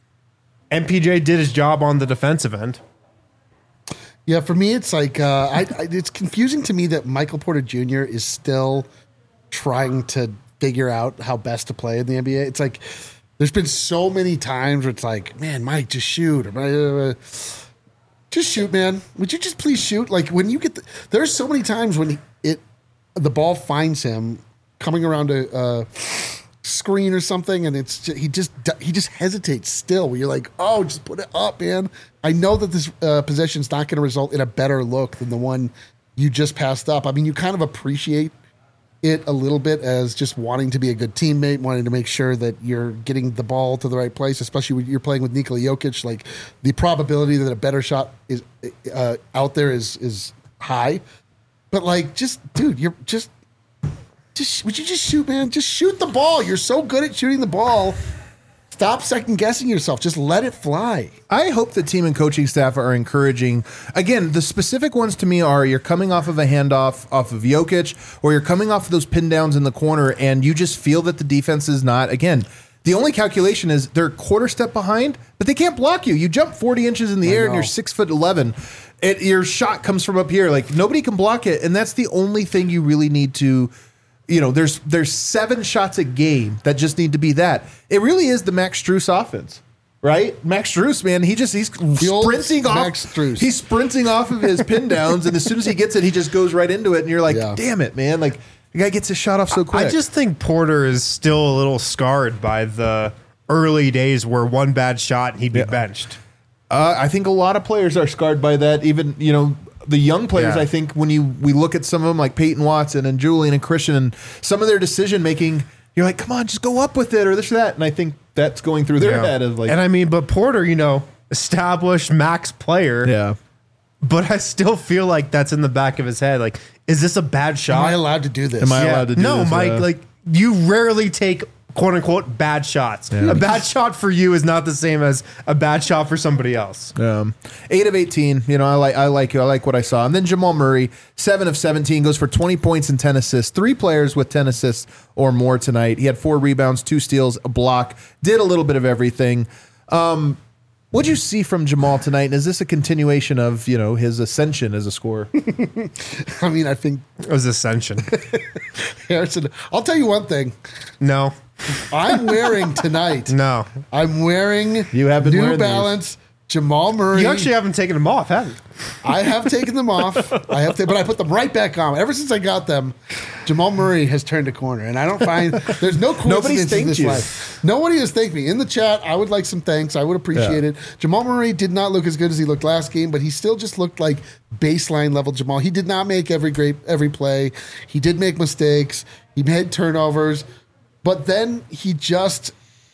MPJ did his job on the defensive end. Yeah, for me, it's like it's confusing to me that Michael Porter Jr. is still trying to figure out how best to play in the NBA. It's like there's been so many times where it's like, man, Mike, just shoot. Just shoot, man. Would you just please shoot? Like when you get there's so many times when the ball finds him coming around a screen or something, and he just hesitates still. Where you're like, oh, just put it up, man. I know that this possession's not going to result in a better look than the one you just passed up. I mean, you kind of appreciate it a little bit as just wanting to be a good teammate, wanting to make sure that you're getting the ball to the right place, especially when you're playing with Nikola Jokic. Like the probability that a better shot is out there is high. But like, just dude, you're just would you just shoot, man? Just shoot the ball. You're so good at shooting the ball. Stop second guessing yourself. Just let it fly. I hope the team and coaching staff are encouraging. Again, the specific ones to me are you're coming off of a handoff off of Jokic, or you're coming off of those pin downs in the corner, and you just feel that the defense is not. Again, the only calculation is they're a quarter step behind, but they can't block you. You jump 40 inches in the air, and you're 6'11". Your shot comes from up here. Like nobody can block it, and that's the only thing you really need to. You know, there's 7 shots a game that just need to be that. It really is the Max Strus offense, right? Max Strus, man, he's sprinting off. Max Strus. He's sprinting off of his pin downs, and as soon as he gets it, he just goes right into it, and you're like, damn it, man! Like the guy gets his shot off so quick. I just think Porter is still a little scarred by the early days where one bad shot and he'd be benched. I think a lot of players are scarred by that. Even the young players, I think when we look at some of them like Peyton Watson and Julian and Christian and some of their decision making, you're like, come on, just go up with it or this or that. And I think that's going through their head of like. And I mean, but Porter, established max player. Yeah. But I still feel like that's in the back of his head. Like, is this a bad shot? Am I allowed to do this? Am I allowed to do this? No, Mike, like you rarely take quote unquote bad shots. Yeah. A bad shot for you is not the same as a bad shot for somebody else. 8 of 18. I like what I saw. And then Jamal Murray, 7 of 17, goes for 20 points and 10 assists. 3 players with 10 assists or more tonight. He had 4 rebounds, 2 steals, a block. Did a little bit of everything. What'd you see from Jamal tonight? And is this a continuation of his ascension as a scorer? I mean, I think it was ascension. Harrison, I'll tell you one thing. No. I'm wearing tonight. No. I'm wearing you have been New Balance Jamal Murray. You actually haven't taken them off, have you? I have taken them off. But I put them right back on. Ever since I got them, Jamal Murray has turned a corner. And I don't find there's no coincidence in this life. Nobody has thanked me. In the chat, I would like some thanks. I would appreciate it. Jamal Murray did not look as good as he looked last game, but he still just looked like baseline level Jamal. He did not make every play. He did make mistakes. He made turnovers. But then he just,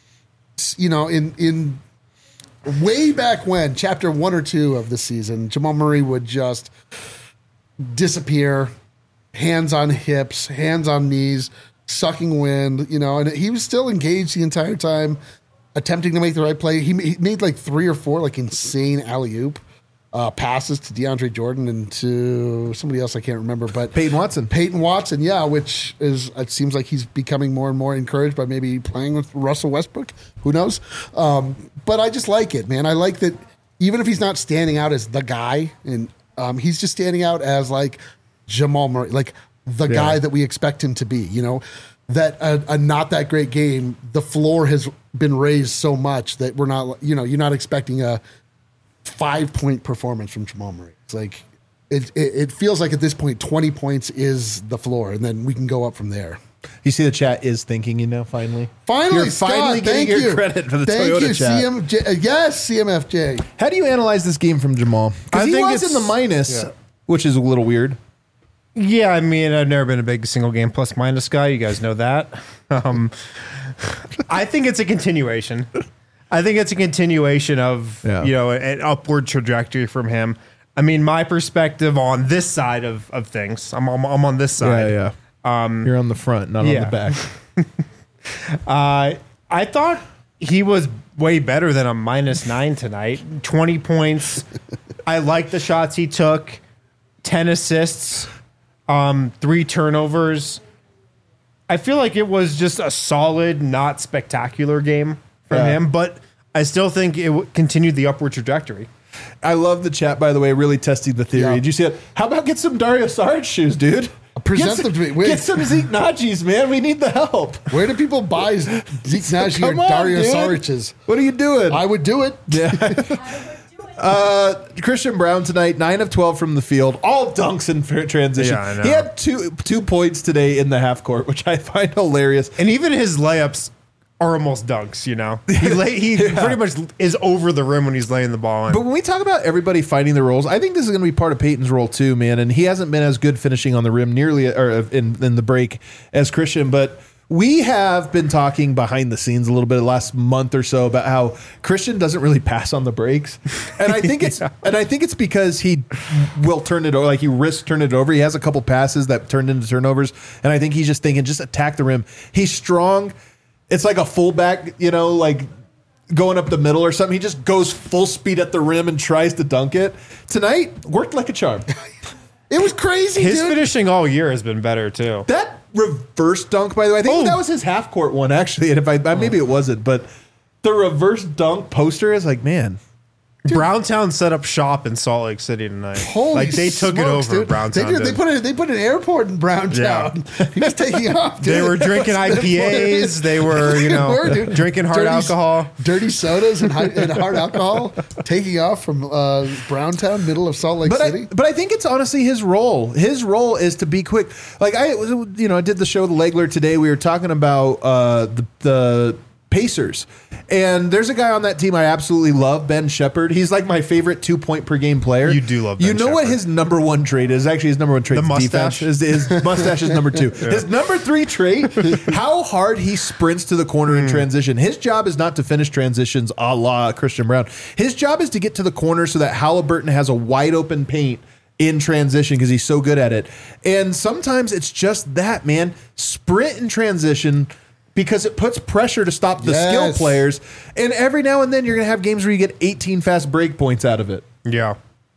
in way back when, chapter 1 or 2 of the season, Jamal Murray would just disappear, hands on hips, hands on knees, sucking wind, and he was still engaged the entire time, attempting to make the right play. He made like 3 or 4 like insane alley-oop passes to DeAndre Jordan and to somebody else I can't remember, but Peyton Watson, yeah, which is it seems like he's becoming more and more encouraged by maybe playing with Russell Westbrook. Who knows? But I just like it, man. I like that even if he's not standing out as the guy, and he's just standing out as like Jamal Murray, like the guy that we expect him to be. That a not that great game, the floor has been raised so much that we're not, you're not expecting a 5-point performance from Jamal Murray. It's like it feels like at this point 20 points is the floor, and then we can go up from there. You see the chat is thanking you now. Finally, you're Scott, finally getting your credit for the Toyota chat. CMJ, yes, CMFJ. How do you analyze this game from Jamal? Because he was in the minus, which is a little weird. Yeah, I mean, I've never been a big single game plus minus guy. You guys know that. I think it's a continuation. I think it's a continuation of an upward trajectory from him. I mean, my perspective on this side of things. I'm on this side. Yeah. You're on the front, not on the back. I thought he was way better than a -9 tonight. 20 points. I like the shots he took. 10 assists. 3 turnovers. I feel like it was just a solid, not spectacular game from him, but I still think it continued the upward trajectory. I love the chat, by the way, really testing the theory. Yeah. Did you see it? How about get some Dario Saric shoes, dude? Present them to me. Wait. Get some Zeke Najis, man. We need the help. Where do people buy Zeke Naji or Dario Saric's? What are you doing? I would do it. Yeah. I would do it. Christian Brown tonight, 9 of 12 from the field, all dunks in transition. Yeah, I know. He had two points today in the half court, which I find hilarious. And even his layups are almost dunks, you know? He pretty much is over the rim when he's laying the ball in. But when we talk about everybody finding their roles, I think this is going to be part of Peyton's role too, man. And he hasn't been as good finishing on the rim nearly or in the break as Christian. But we have been talking behind the scenes a little bit the last month or so about how Christian doesn't really pass on the breaks. And I think it's because he will turn it over, like he risks turning it over. He has a couple passes that turned into turnovers. And I think he's just thinking, just attack the rim. He's strong. It's like a fullback, you know, like going up the middle or something. He just goes full speed at the rim and tries to dunk it. Tonight, worked like a charm. It was crazy, His dude. finishing all year has been better, too. That reverse dunk, by the way, I think that was his half court one, actually. And if maybe it wasn't, but the reverse dunk poster is like, man. Browntown set up shop in Salt Lake City tonight. Holy like they took smokes, it over. dude. Browntown. They put an airport in Browntown. He was taking off. Dude. They were drinking IPAs. They were, you know, dude. drinking hard alcohol. Dirty sodas and hard alcohol. Taking off from Browntown, middle of Salt Lake City. But I think it's honestly his role. His role is to be quick. Like I did the show The Legler today. We were talking about the Pacers. And there's a guy on that team I absolutely love, Ben Shepherd. He's like my favorite 2-point per game player. You do love Ben You know what Shepherd. his number one trait is? Actually, his number one trait The is mustache? defense. His mustache is number 2. His number 3 trait, how hard he sprints to the corner in transition. His job is not to finish transitions a la Christian Brown. His job is to get to the corner so that Halliburton has a wide open paint in transition because he's so good at it. And sometimes it's just that, man. Sprint in transition because it puts pressure to stop the skill players. And every now and then you're going to have games where you get 18 fast break points out of it. Yeah.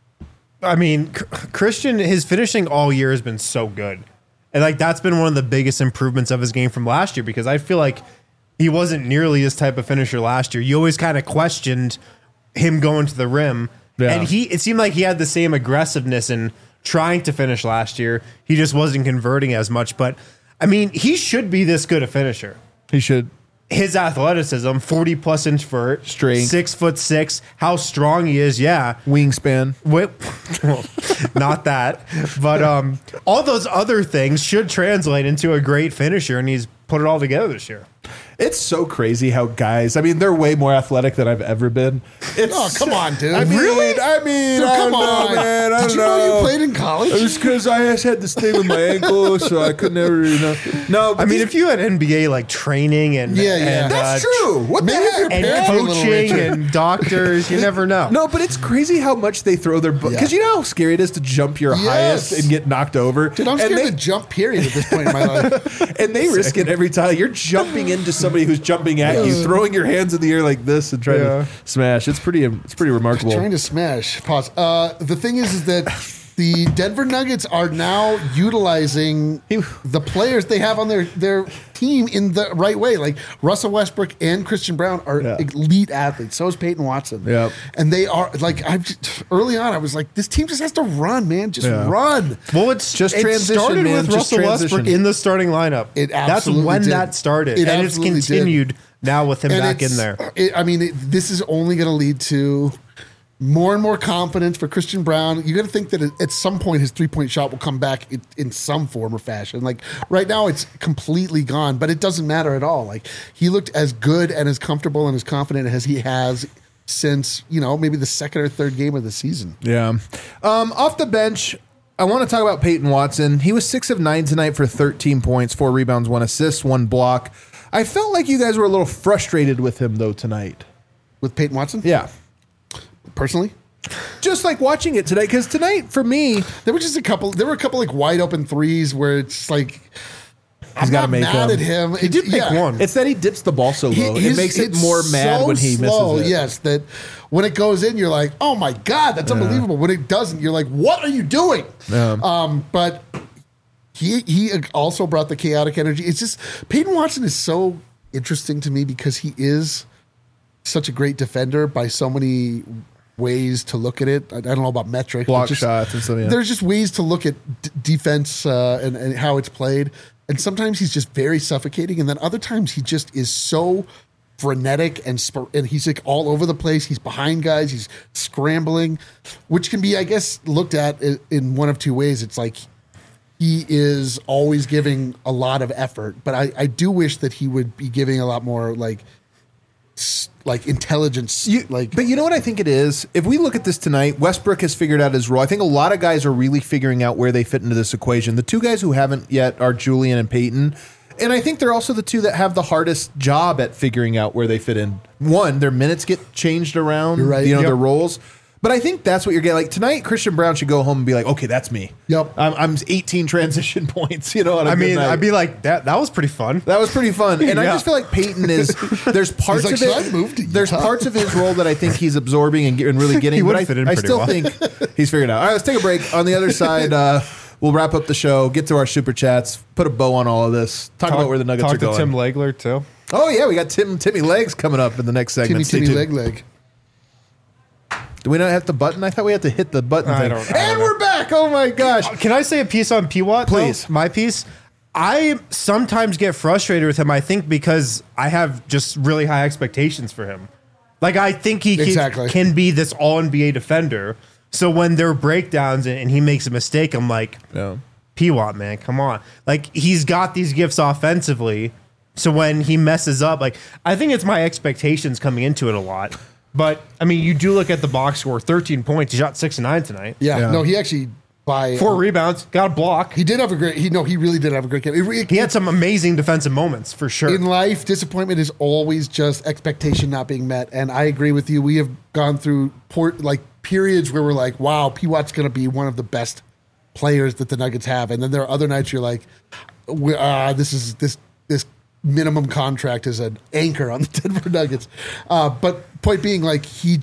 I mean, Christian, his finishing all year has been so good. And like that's been one of the biggest improvements of his game from last year because I feel like he wasn't nearly this type of finisher last year. You always kind of questioned him going to the rim. Yeah. And it seemed like he had the same aggressiveness in trying to finish last year. He just wasn't converting as much. But I mean, he should be this good a finisher. He should. His athleticism, 40+ inch vert, Strength. 6'6", how strong he is, yeah. Wingspan. Wait, well, not that, but all those other things should translate into a great finisher, and he's put it all together this year. It's so crazy how guys, I mean, they're way more athletic than I've ever been. Oh, come on, dude. I mean, Really? I mean, Dude, I come don't know, on. man. I Did don't you know you played in college? It's because I just had this thing with my ankle, so I could never, No, but I mean, if you had NBA like training and Yeah. that's true. What the Maybe if heck? your and parents were a little coaching richer. and doctors, you never know. No, but it's crazy how much they throw their because you know how scary it is to jump your highest and get knocked over. Dude, I'm scared to jump, period, at this point in my life. And they risk it every time. You're jumping into somebody who's jumping at you, throwing your hands in the air like this and trying to smash. It's pretty remarkable. Trying to smash. Pause. The thing is that the Denver Nuggets are now utilizing the players they have on their team in the right way. Like Russell Westbrook and Christian Brown are elite athletes. So is Peyton Watson. Yep. And they are like early on. I was like, this team just has to run, man. Just run. Well, it's Just it transition, started man. with Just Russell Westbrook transition. in the starting lineup. It That's absolutely when did. that started, It and it's absolutely did. continued now with him back in there. This is only going to lead to more and more confidence for Christian Brown. You got to think that at some point his 3-point shot will come back in some form or fashion. Like right now, it's completely gone, but it doesn't matter at all. Like he looked as good and as comfortable and as confident as he has since maybe the second or third game of the season. Yeah. Off the bench, I want to talk about Peyton Watson. He was 6 of 9 tonight for 13 points, 4 rebounds, 1 assist, 1 block. I felt like you guys were a little frustrated with him though tonight. With Peyton Watson? Yeah. Personally? Just like watching it today, because tonight for me, There were a couple like wide open threes where it's like I'm gotta not make mad them. at him. He did pick one. it's that he dips the ball so low. It makes it it's more mad so when he slow, misses it. Yes, that when it goes in, you're like, oh my God, that's unbelievable. When it doesn't, you're like, what are you doing? But he also brought the chaotic energy. It's just Peyton Watson is so interesting to me because he is such a great defender by so many ways to look at it. I don't know about metrics. Block but just, shots and stuff, yeah. There's just ways to look at defense and how it's played. And sometimes he's just very suffocating. And then other times he just is so frenetic and he's like all over the place. He's behind guys. He's scrambling, which can be, I guess, looked at in one of two ways. It's like he is always giving a lot of effort, but I do wish that he would be giving a lot more like intelligence. But you know what I think it is? If we look at this tonight, Westbrook has figured out his role. I think a lot of guys are really figuring out where they fit into this equation. The two guys who haven't yet are Julian and Peyton. And I think they're also the two that have the hardest job at figuring out where they fit in. One, their minutes get changed around, You're right. Their roles. But I think that's what you're getting. Like tonight, Christian Brown should go home and be like, okay, that's me. Yep. I'm 18 transition points. I mean, I'd be like, that was pretty fun. That was pretty fun. And I just feel like Peyton is, there's parts like, of "So I it. moved to There's Utah." parts of his role that I think he's absorbing and really getting. He would but fit in I pretty still well. think he's figured it out. All right, let's take a break. On the other side, we'll wrap up the show, get to our super chats, put a bow on all of this, talk about where the Nuggets are going. Talk to Tim Legler, too. Oh, yeah, we got Timmy Legs coming up in the next segment. Timmy leg. Do we not have the button? I thought we had to hit the button I thing. don't know. And we're back. Oh, my gosh. Can I say a piece on P-Watt? Please. My piece? I sometimes get frustrated with him, I think, because I have just really high expectations for him. Like, I think he can be this all-NBA defender. So when there are breakdowns and he makes a mistake, I'm like, Yeah. P-Watt, man, come on. Like, he's got these gifts offensively. So when he messes up, like, I think it's my expectations coming into it a lot. But, I mean, you do look at the box score, 13 points. He shot 6 of 9 tonight. Yeah. No, he actually, by 4 rebounds, got a block. he did have a great, he really did have a great game. He had some amazing defensive moments, for sure. In life, disappointment is always just expectation not being met. And I agree with you. We have gone through periods where we're like, wow, P-Watt's going to be one of the best players that the Nuggets have. And then there are other nights you're like, this minimum contract is an anchor on the Denver Nuggets. But point being, like,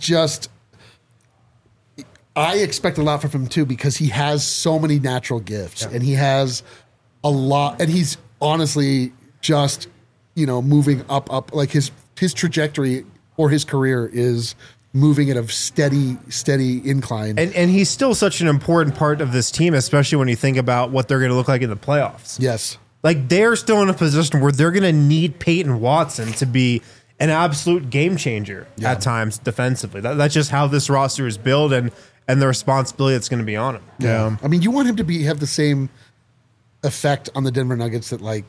I expect a lot from him too, because he has so many natural gifts and he has a lot, and he's honestly just, moving up, like his trajectory or his career is moving at a steady incline. And he's still such an important part of this team, especially when you think about what they're going to look like in the playoffs. Yes. Like, they're still in a position where they're going to need Peyton Watson to be an absolute game changer at times defensively. That's just how this roster is built and the responsibility that's going to be on him. Yeah. I mean, you want him to have the same effect on the Denver Nuggets that, like,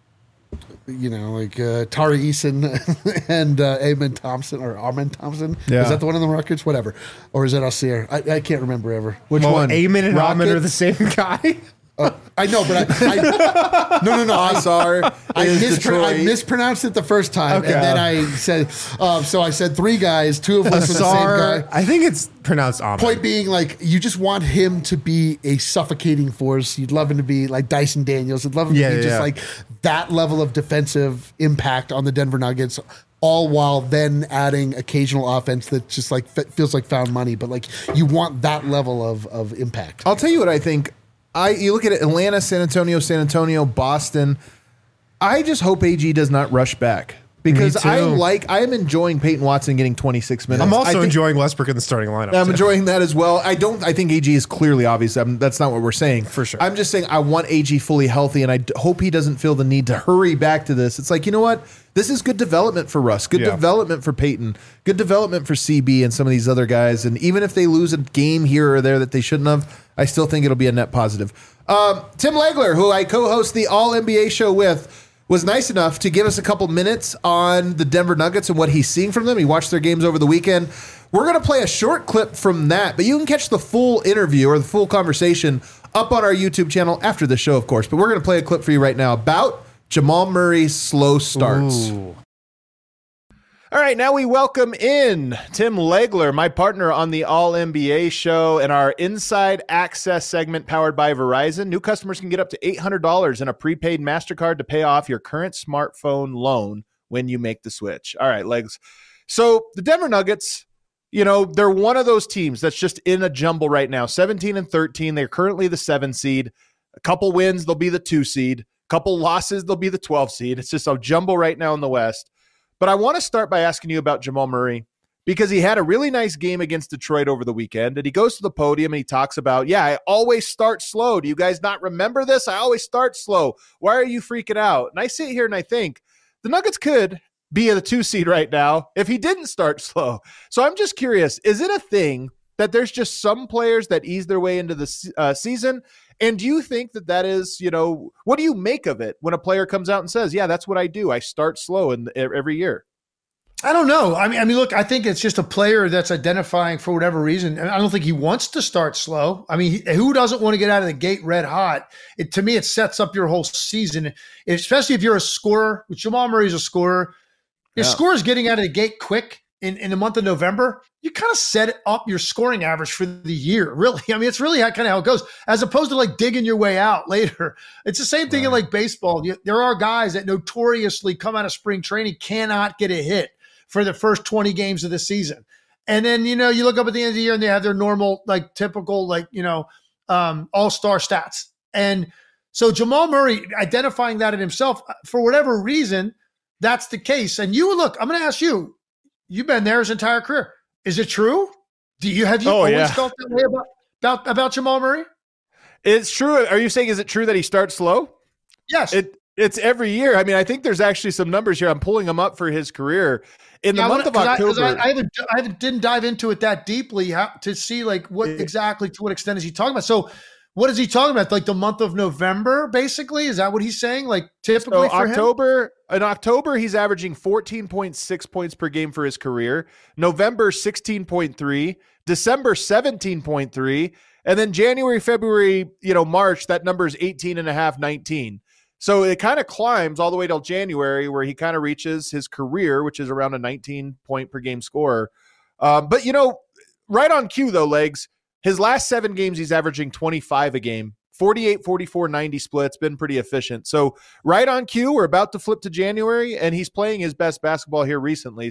Tari Eason and Amen Thompson or Armin Thompson. Yeah. Is that the one in the Records? Whatever. Or is that Alcier? I can't remember ever. Which one? Amen and Armin Rocket? are the same guy. I know, but no. I Detroit. mispronounced it the first time, Okay. and then I said, so I said 3 guys, 2 of which were the same guy. I think it's pronounced Amen. Point being, like, you just want him to be a suffocating force. You'd love him to be like Dyson Daniels. You'd love him to be just like that level of defensive impact on the Denver Nuggets, all while then adding occasional offense that just like feels like found money. But like, you want that level of impact. I'll tell you what I think. You look at Atlanta, San Antonio, Boston. I just hope AG does not rush back, because Me too. I am enjoying Peyton Watson getting 26 minutes. I'm also I think- enjoying Westbrook in the starting lineup. I'm too. enjoying that as well. I think AG is clearly obvious. That's not what we're saying. For sure. I'm just saying I want AG fully healthy, and I hope he doesn't feel the need to hurry back to this. It's like, you know what? This is good development for Russ, good development for Peyton, good development for CB and some of these other guys. And even if they lose a game here or there that they shouldn't have, I still think it'll be a net positive. Tim Legler, who I co-host the All NBA show with, was nice enough to give us a couple minutes on the Denver Nuggets and what he's seeing from them. He watched their games over the weekend. We're going to play a short clip from that, but you can catch the full interview or the full conversation up on our YouTube channel after the show, of course. But we're going to play a clip for you right now about Jamal Murray's slow starts. Ooh. All right, now we welcome in Tim Legler, my partner on the All NBA show and our Inside Access segment powered by Verizon. New customers can get up to $800 in a prepaid MasterCard to pay off your current smartphone loan when you make the switch. All right, Legs. So the Denver Nuggets, they're one of those teams that's just in a jumble right now. 17-13, they're currently the 7 seed. A couple wins, they'll be the 2 seed. A couple losses, they'll be the 12 seed. It's just a jumble right now in the West. But I want to start by asking you about Jamal Murray, because he had a really nice game against Detroit over the weekend, and he goes to the podium and he talks about, I always start slow. Do you guys not remember this? I always start slow. Why are you freaking out? And I sit here and I think the Nuggets could be the 2 seed right now if he didn't start slow. So I'm just curious, is it a thing that there's just some players that ease their way into the season? And do you think that is, what do you make of it when a player comes out and says, yeah, that's what I do. I start slow every year? I don't know. I mean, look, I think it's just a player that's identifying for whatever reason. And I don't think he wants to start slow. I mean, who doesn't want to get out of the gate red hot? To me, it sets up your whole season, especially if you're a scorer. Jamal Murray's a scorer. Your scorer's getting out of the gate quick in the month of November. You kind of set up your scoring average for the year, really. I mean, it's really kind of how it goes, as opposed to like digging your way out later. It's the same thing in like baseball. There are guys that notoriously come out of spring training, cannot get a hit for the first 20 games of the season. And then, you look up at the end of the year and they have their normal, like typical, like, all-star stats. And so Jamal Murray identifying that in himself, for whatever reason, that's the case. And I'm going to ask you, you've been there his entire career. Is it true? Have you always felt that way about Jamal Murray? It's true. Are you saying, is it true that he starts slow? Yes. It's every year. I mean, I think there's actually some numbers here. I'm pulling them up for his career. In the month of October. I didn't dive into it that deeply to see like what exactly, to what extent is he talking about? So what is he talking about? Like the month of November, basically? Is that what he's saying? Like typically for him? In October, he's averaging 14.6 points per game for his career. November, 16.3. December, 17.3. And then January, February, March, that number is 18.5, 19. So it kind of climbs all the way till January, where he kind of reaches his career, which is around a 19 point per game scorer. But right on cue though, Legs, his last 7 games, he's averaging 25 a game, 48, 44, 90 splits, been pretty efficient. So right on cue, we're about to flip to January and he's playing his best basketball here recently.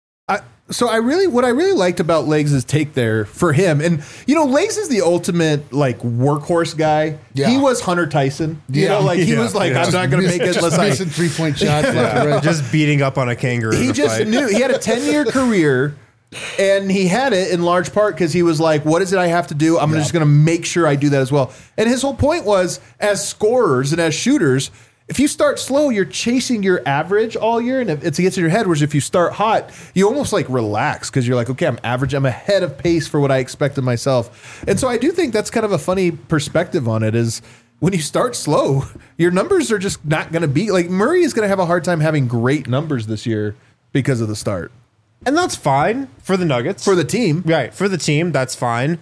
What I really liked about Legs' take there for him, and Legs is the ultimate like workhorse guy. Yeah. He was Hunter Tyson. He was like, I'm not going to make it unless I missing 3-point shots left and right. Just beating up on a kangaroo. He just knew he had a 10-year career, and he had it in large part because he was like, what is it I have to do? I'm just going to make sure I do that as well. And his whole point was, as scorers and as shooters, if you start slow, you're chasing your average all year, and it gets in your head. Whereas if you start hot, you almost like relax because you're like, okay, I'm average. I'm ahead of pace for what I expect of myself. And so I do think that's kind of a funny perspective on it is when you start slow, your numbers are just not going to be like Murray is going to have a hard time having great numbers this year because of the start. And that's fine for the Nuggets. For the team. Right. For the team, that's fine.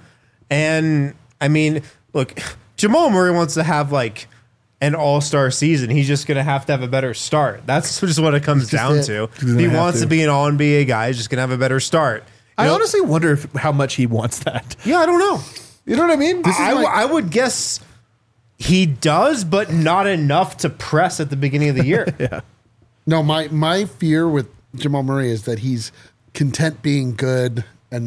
And I mean, look, Jamal Murray wants to have like an all-star season. He's just going to have a better start. That's just what it comes down to. If he wants to be an all-NBA guy, he's just going to have a better start. I honestly wonder how much he wants that. Yeah, I don't know. You know what I mean? I would guess he does, but not enough to press at the beginning of the year. Yeah. No, my fear with Jamal Murray is that he's content being good and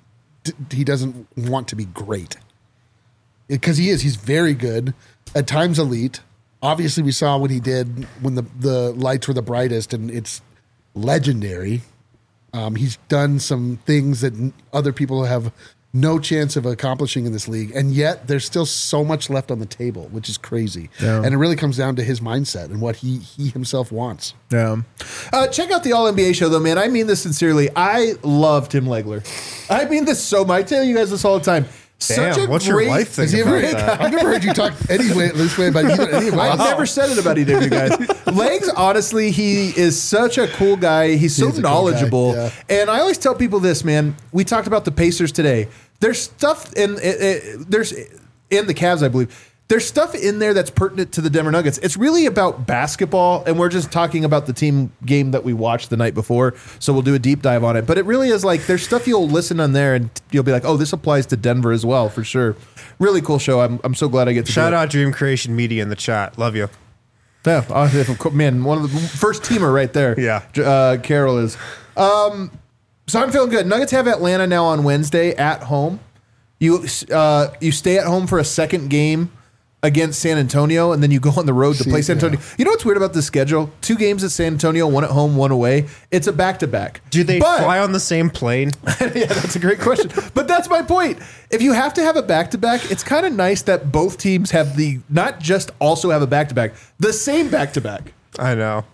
he doesn't want to be great. Because he's very good, at times elite. Obviously, we saw what he did when the lights were the brightest, and it's legendary. He's done some things that other people have no chance of accomplishing in this league, and yet there's still so much left on the table, which is crazy. Yeah. And it really comes down to his mindset and what he himself wants. Yeah. Check out the All-NBA show, though, man. I mean this sincerely. I love Tim Legler. I mean this so much. I tell you guys this all the time. Damn, what's your wife think about that? I've never heard you talk this way about any of us. I've never said it about either of you guys. Legs, honestly, he is such a cool guy. He's so knowledgeable. Cool guy, yeah. And I always tell people this, man. We talked about the Pacers today. There's stuff in the Cavs, I believe. There's stuff in there that's pertinent to the Denver Nuggets. It's really about basketball, and we're just talking about the team game that we watched the night before, so we'll do a deep dive on it. But it really is like there's stuff you'll listen on there, and you'll be like, oh, this applies to Denver as well, for sure. Really cool show. I'm so glad I get to Shout out Dream Creation Media in the chat. Love you. Yeah, man, one of the first teamer right there. Yeah. Carol is. So I'm feeling good. Nuggets have Atlanta now on Wednesday at home. You stay at home for a second game against San Antonio, and then you go on the road to play San Antonio. Yeah. You know what's weird about this schedule? 2 games at San Antonio, 1 at home, 1 away. It's a back-to-back. Do they fly on the same plane? Yeah, that's a great question. But that's my point. If you have to have a back-to-back, it's kind of nice that both teams have not just also have a back-to-back, the same back-to-back. I know.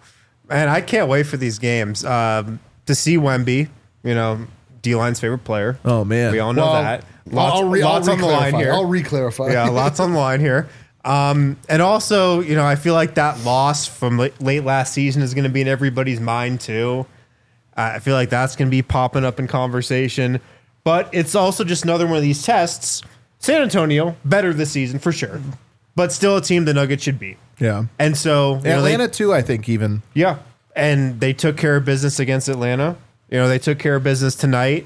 And I can't wait for these games to see Wemby, D-line's favorite player. Oh, man. We all know that. Lots on the line here. I'll re-clarify. Yeah, lots on the line here. And also, I feel like that loss from late last season is going to be in everybody's mind too. I feel like that's going to be popping up in conversation. But it's also just another one of these tests. San Antonio, better this season for sure. But still a team the Nuggets should beat. Yeah. And so Atlanta too, I think even. Yeah. And they took care of business against Atlanta. They took care of business tonight.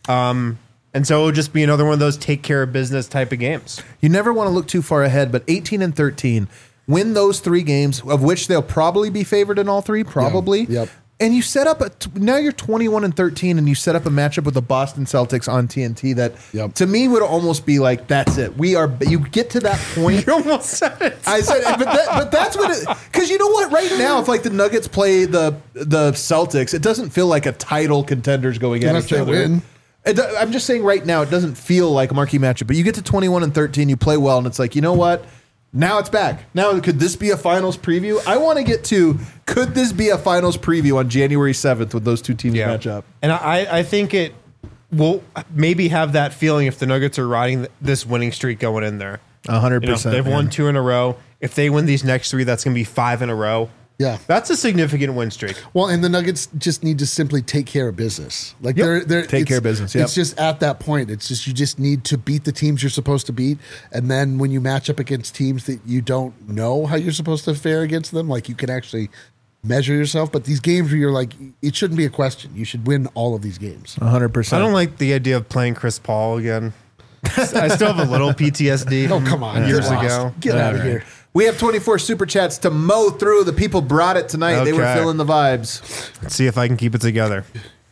And so it would just be another one of those take care of business type of games. You never want to look too far ahead, but 18 and 13, win those 3 games, of which they'll probably be favored in all 3, probably. Yeah. Yep. And you set up now you're 21 and 13, and you set up a matchup with the Boston Celtics on TNT that to me would almost be like, that's it. You get to that point. You almost said it. I said, but that's what it, because you know what? Right now, if like the Nuggets play the Celtics, it doesn't feel like a title contenders going at each other. Win. I'm just saying right now, it doesn't feel like a marquee matchup, but you get to 21 and 13, you play well, and it's like, you know what? Now it's back. Now, could this be a finals preview? I want to get to, could this be a finals preview on January 7th with those two teams match up? And I think it will maybe have that feeling if the Nuggets are riding this winning streak going in there. 100%. They've won 2 in a row. If they win these next 3, that's going to be 5 in a row. Yeah. That's a significant win streak. Well, and the Nuggets just need to simply take care of business. Like they're take care of business. Yep. It's just at that point. It's just you just need to beat the teams you're supposed to beat, and then when you match up against teams that you don't know how you're supposed to fare against them, like you can actually measure yourself. But these games where you're like, it shouldn't be a question. You should win all of these games. 100%. I don't like the idea of playing Chris Paul again. I still have a little PTSD. Oh, come on. Years Get lost. ago. Get out of here. We have 24 super chats to mow through. The people brought it tonight. They were Okay. feeling the vibes. Let's see if I can keep it together.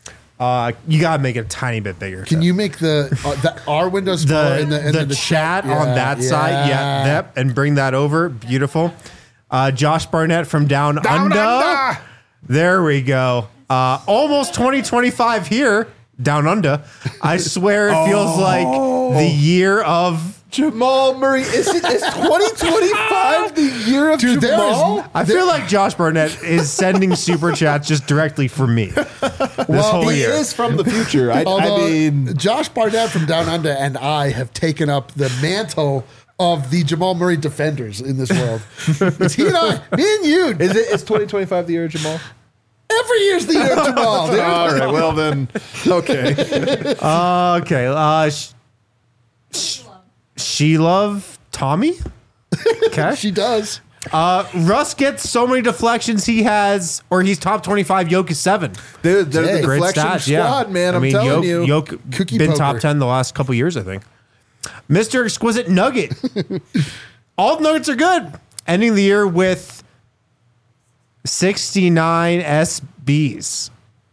You gotta make it a tiny bit bigger. Can you make our windows smaller and the chat on that side? Yeah, yep, and bring that over. Beautiful. Josh Barnett from Down Under. There we go. Almost 2025 here. Down Under. I swear it feels like the year of Jamal Murray. Is 2025 the year of Jamal? I feel like Josh Barnett is sending super chats just directly for me. This whole he year. is from the future. I mean, Josh Barnett from Down Under and I have taken up the mantle of the Jamal Murray defenders in this world. It's he and I, me and you. is 2025 the year of Jamal? Every year's the year of Jamal. Dude. All right. Well then, okay. Okay. She love Tommy. Okay. She does. Russ gets so many deflections. He's top 25. Jokic is 7. Dude, they're the Great deflection stats, squad, man. I'm telling you. Jokic Cookie been poker. top 10 the last couple years, I think. Mr. Exquisite Nugget. All the Nuggets are good. Ending the year with 69 SBs.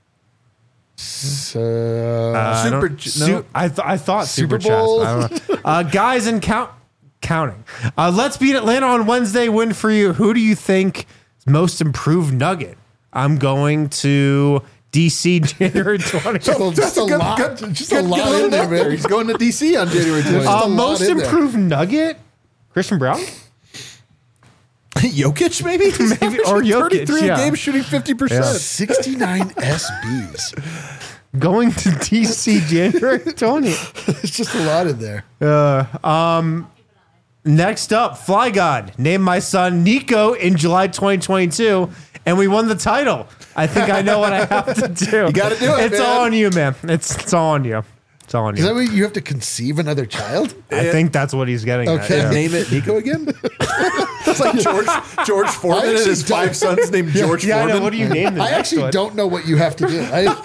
I thought Super Super Bowl. Chats. I don't know. Guys and counting. Let's beat Atlanta on Wednesday. Win for you. Who do you think is most improved Nugget? I'm going to DC January 20th. Just a lot. Just a lot in there, man. He's going to DC on January 20th. Most in there. improved Nugget? Christian Brown? Jokic, maybe? Maybe, or Jokic, 33 yeah. a game, shooting 50%. 69 SBs. Going to DC January 20th. It's just a lot in there. Next up, Fly God named my son Nico in July 2022, and we won the title. I think I know what I have to do. You got to do it, It's man. all on you, man. It's all on you. It's all on Is that you. what you have to conceive another child? I think that's what he's getting Okay. at. Yeah. Name it Nico again? It's like George Foreman and his 5 sons named George Yeah, I Foreman. know. What do you name the I next actually one? don't know what you have to do.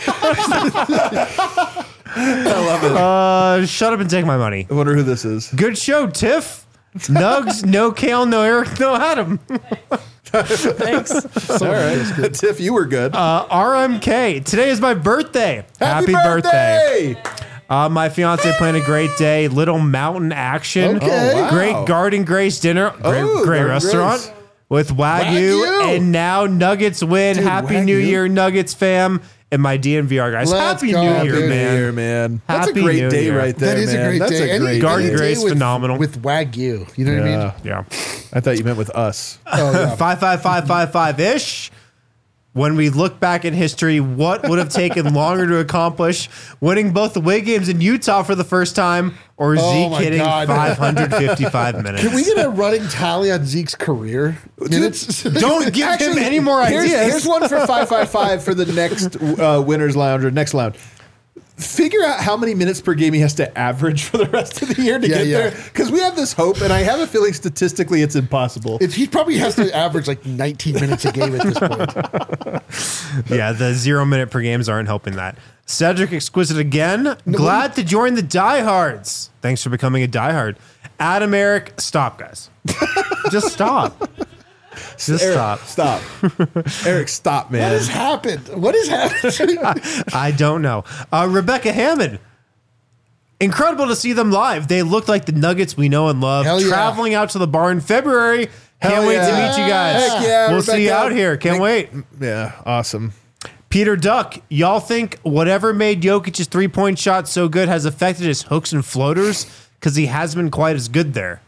Shut up and take my money. I wonder who this is. Good show, Tiff. Nugs, no Kale, no Eric, no Adam. Thanks. All right. Tiff, you were good. RMK. Today is my birthday. Happy birthday! My fiance planned a great day. Little mountain action. Okay. Oh, wow. Great Garden Grace dinner. Great Garden restaurant Grace. with Wagyu. Wagyu. And now Nuggets win. Dude, Happy New Wagyu. Year, Nuggets fam. And my DNVR guys. Let's Happy go, New Year, baby. man. Here, man. That's Happy a great New day Year. right there, That is man. a great That's day. a great Garden Any day Grace, with- phenomenal. With Wagyu. You know what I mean? Yeah. I thought you meant with us. Oh, yeah. 55555 ish. When we look back in history, what would have taken longer to accomplish? Winning both the away games in Utah for the first time, or Zeke my hitting God. 555 minutes? Can we get a running tally on Zeke's career minutes? Don't give him any more ideas. Here's one for 555 for the next Winners Lounge or next lounge. Figure out how many minutes per game he has to average for the rest of the year to get there. Because we have this hope, and I have a feeling statistically it's impossible. He probably has to average like 19 minutes a game at this point. Yeah, the 0 minute per games aren't helping that. Cedric Exquisite again. Glad to join the diehards. Thanks for becoming a diehard. Adam Eric, stop, guys. Just stop. Just Eric, stop. Eric, stop, man. What has happened? What has happened? I don't know. Rebecca Hammond. Incredible to see them live. They looked like the Nuggets we know and love. Hell yeah. Traveling out to the bar in February. Can't wait to meet you guys. Heck yeah, we'll see you out here. Can't wait. Yeah, awesome. Peter Duck, y'all think whatever made Jokic's 3-point shot so good has affected his hooks and floaters? Because he has been quite as good there.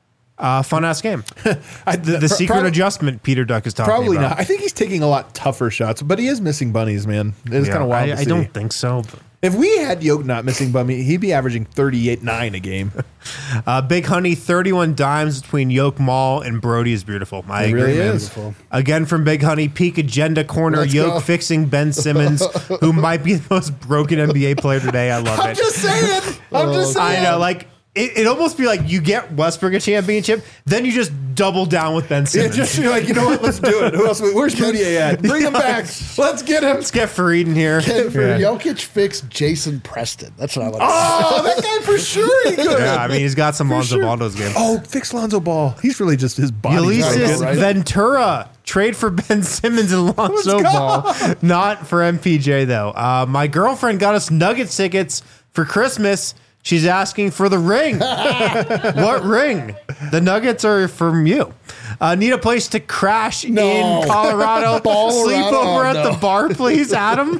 Fun ass game. The secret adjustment Peter Duck is talking Probably about. not. I think he's taking a lot tougher shots, but he is missing bunnies, man. It's kind of wild to I see. don't think so. But. If we had Yoke not missing bunny, he'd be averaging 38.9 a game. Big Honey, 31 dimes between Yoke Mall and Brody is beautiful. I agree, really man. is. Again from Big Honey, peak agenda corner, Let's Yoke go. fixing Ben Simmons, who might be the most broken NBA player today. I love it. I'm just saying. I know, like it almost be like you get Westbrook a championship, then you just double down with Ben Yeah, Simmons. just you're like, you know what? Let's do it. Who else? Where's Moutier at? Bring him back. Let's get him. Let's get Fareed in here. Can Yeah. Jokic fix Jason Preston? That's what I want to say. Oh, that guy for sure he could. Yeah, I mean he's got some Lonzo sure. Ball those games. Oh, fix Lonzo Ball. He's really just his body. Ulysses right? Ventura trade for Ben Simmons and Lonzo go. Ball, not for MPJ though. My girlfriend got us Nuggets tickets for Christmas. She's asking for the ring. What ring? The Nuggets are from you. Need a place to crash in Colorado. Colorado. Sleep over Oh, at no. the bar, please, Adam.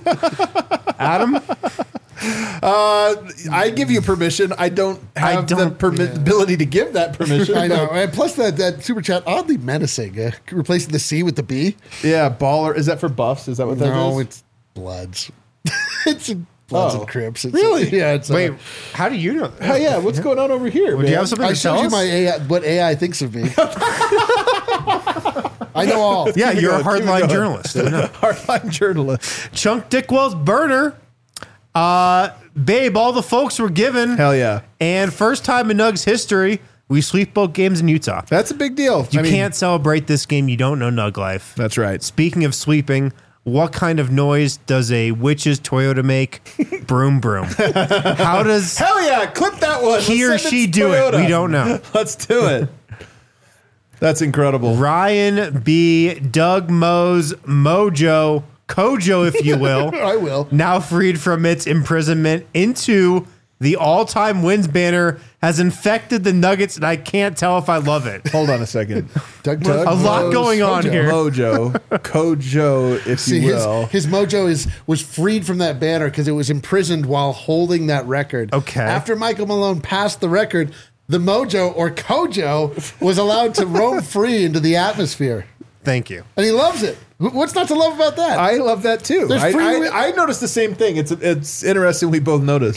Adam. I give you permission. I don't have the ability to give that permission. I know. And plus that super chat, oddly menacing. Replacing the C with the B. Yeah, baller. Is that for buffs? Is that what that is? No, it's Bloods. It's Bloods and Crips. It's, Really? Yeah. It's, Wait, how do you know that? Oh, yeah, what's going on over here? Do you have something I to tell showed you us? my AI, what AI thinks of me. I know all. Yeah, Keep it you're a going, keep it hardline going. journalist. I know. Hardline journalist. Chunk Dickwell's burner. Babe, all the folks were given. Hell yeah. And first time in Nugs history, we sweep both games in Utah. That's a big deal. You can't celebrate this game. You don't know Nug life. That's right. Speaking of sweeping, what kind of noise does a witch's Toyota make? Broom, broom. How does Hell yeah. Clip that one. he or Let's send she to do Toyota. it? We don't know. Let's do it. That's incredible. Ryan B. Doug Mose Mojo Kojo, if you will. I will. Now freed from its imprisonment into the all-time wins banner, has infected the Nuggets, and I can't tell if I love it. Hold on a second. Doug A lot Rose, going on Mojo. here. Kojo, if See, you will. his mojo was freed from that banner because it was imprisoned while holding that record. Okay. After Michael Malone passed the record, the mojo or Kojo was allowed to roam free into the atmosphere, Thank you. and he loves it. What's not to love about that? I love that too. There's free- I noticed the same thing. It's interesting we both noticed.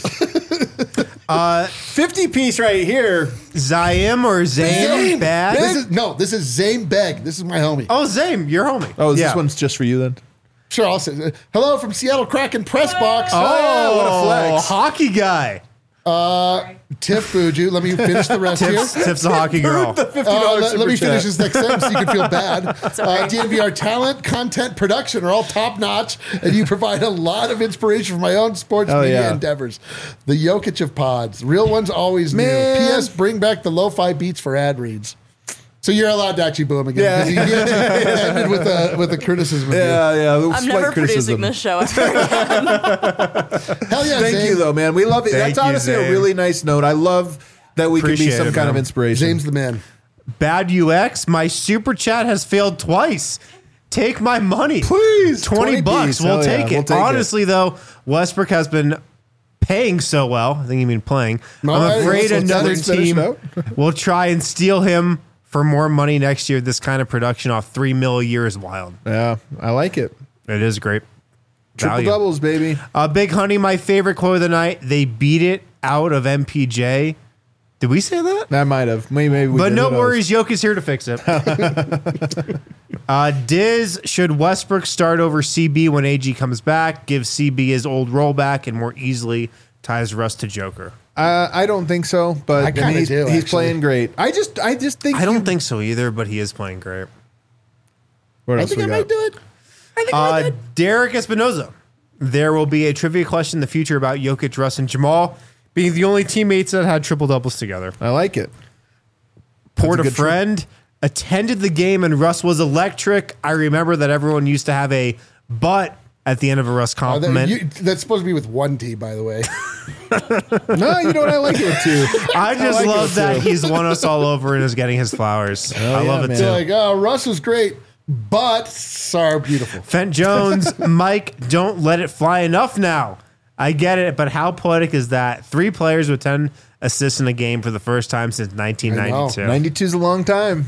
50 piece right here. Zaim or Zaim Bad? This is Zane Begg. This is my homie. Oh, Zaim, your homie. Oh, Yeah. this one's just for you then? Sure, I'll say hello from Seattle Kraken press box. Oh, what a flex. Hockey guy. Tiff Buju. Let me finish the rest here. Tiff's a hockey girl. $50 Let me super finish chat. this next sentence so you can feel bad. DNVR talent, content, production are all top notch, and you provide a lot of inspiration for my own sports Oh, media yeah. endeavors. The Jokic of pods. Real ones always Man. new. P.S. Bring back the lo-fi beats for ad reads. So you're allowed to actually boo him again. 'cause he ended with a criticism of you. Yeah. I'm never producing this show ever again. Hell yeah, Thank Zane. you, though, man. We love it. Thank That's you, honestly a Zane. really nice note. I love that we can be Appreciate some it, kind of man. inspiration. James the man. Bad UX. My super chat has failed twice. Take my money. Please, $20 piece. We'll Hell yeah, take it. we'll take it. Honestly, though, Westbrook has been paying so well. I think you mean playing. No, I'm afraid let's another finish team out. will try and steal him for more money next year. This kind of production off $3 million a year is wild. Yeah, I like it. It is great. Triple Value. doubles, baby. Big Honey, my favorite quote of the night. They beat it out of MPJ. Did we say that? I might have. Maybe we But did. no Who knows? worries, Jokic is here to fix it. Diz, should Westbrook start over CB when AG comes back? Give CB his old rollback and more easily ties Russ to Joker. I don't think so, but I kinda he's, do, he's actually. playing great. I just think I don't think so either, but he is playing great. What I else think we I got? might do it. Derek Espinoza. There will be a trivia question in the future about Jokic, Russ, and Jamal being the only teammates that had triple doubles together. I like it. Poured a good friend, attended the game, and Russ was electric. I remember that everyone used to have a but at the end of a Russ compliment. That's supposed to be with one T, by the way. No, you know what? I like it too. I just like love it that too. he's won us all over and is getting his flowers. I love it man. too. Like, oh, Russ was great, but Sar beautiful. Fent Jones, Mike, don't let it fly enough now. I get it, but how poetic is that? 3 players with 10 assists in a game for the first time since 1992. 92 is a long time.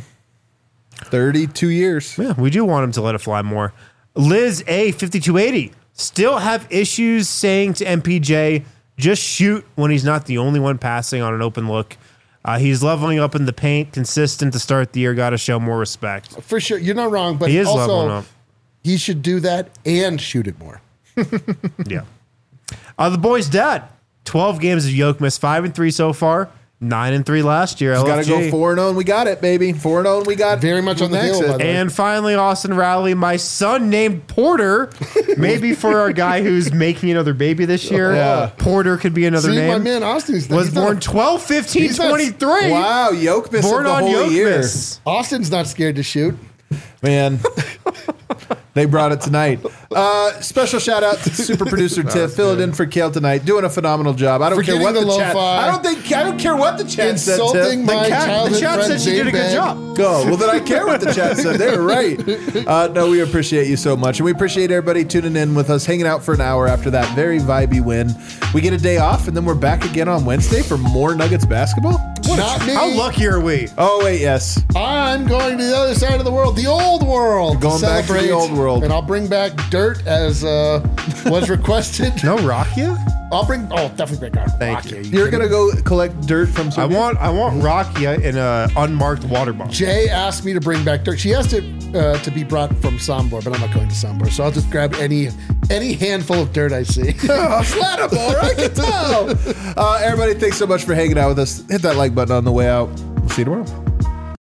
32 years. Yeah, we do want him to let it fly more. Liz A, 5280, still have issues saying to MPJ, just shoot when he's not the only one passing on an open look. He's leveling up in the paint, consistent to start the year, got to show more respect. For sure. You're not wrong, but He is leveling also up. he should do that and shoot it more. Yeah. The boy's dad. 12 games of Yoke missed 5-3 so far. 9-3 last year. Got to go LFG. 4-0 and we got it, baby. 4-0 and we got Very much on the exit. hill, by the way. And finally, Austin Rowley, my son named Porter. Maybe for our guy who's making another baby this year. Yeah. Porter could be another See, name. my man Austin's was he's not- born 12-15-23. he's not- Wow, Yoke missed Born the on whole year. Yokmas. Austin's not scared to shoot. Man, they brought it tonight. Special shout out to super producer Tiff, filling in for Kale tonight, doing a phenomenal job. I don't care Forgetting what the the chat. lo-fi. I don't care what the chat said. Tiff. Insulting my The childhood chat friend said she did a good Zane job. Bang. Go. Well, then I care what the chat said. They were right. No, we appreciate you so much. And we appreciate everybody tuning in with us, hanging out for an hour after that very vibey win. We get a day off, and then we're back again on Wednesday for more Nuggets basketball. Not me. How lucky are we? Oh, wait, yes. I'm going to the other side of the world, the old world. Going back to the celebrate, old world. And I'll bring back dirt as was requested. No Rakia? I'll bring, definitely bring back Thank Rocky. you. You're going to go collect dirt from I some. want Rakia in a unmarked water bottle. Jay asked me to bring back dirt. She has to be brought from Sombor, but I'm not going to Sombor, so I'll just grab any handful of dirt I see. Flattable, I can tell. Everybody, thanks so much for hanging out with us. Hit that like button on the way out. We'll see you tomorrow.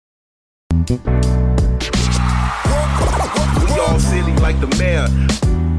We all silly like the mayor.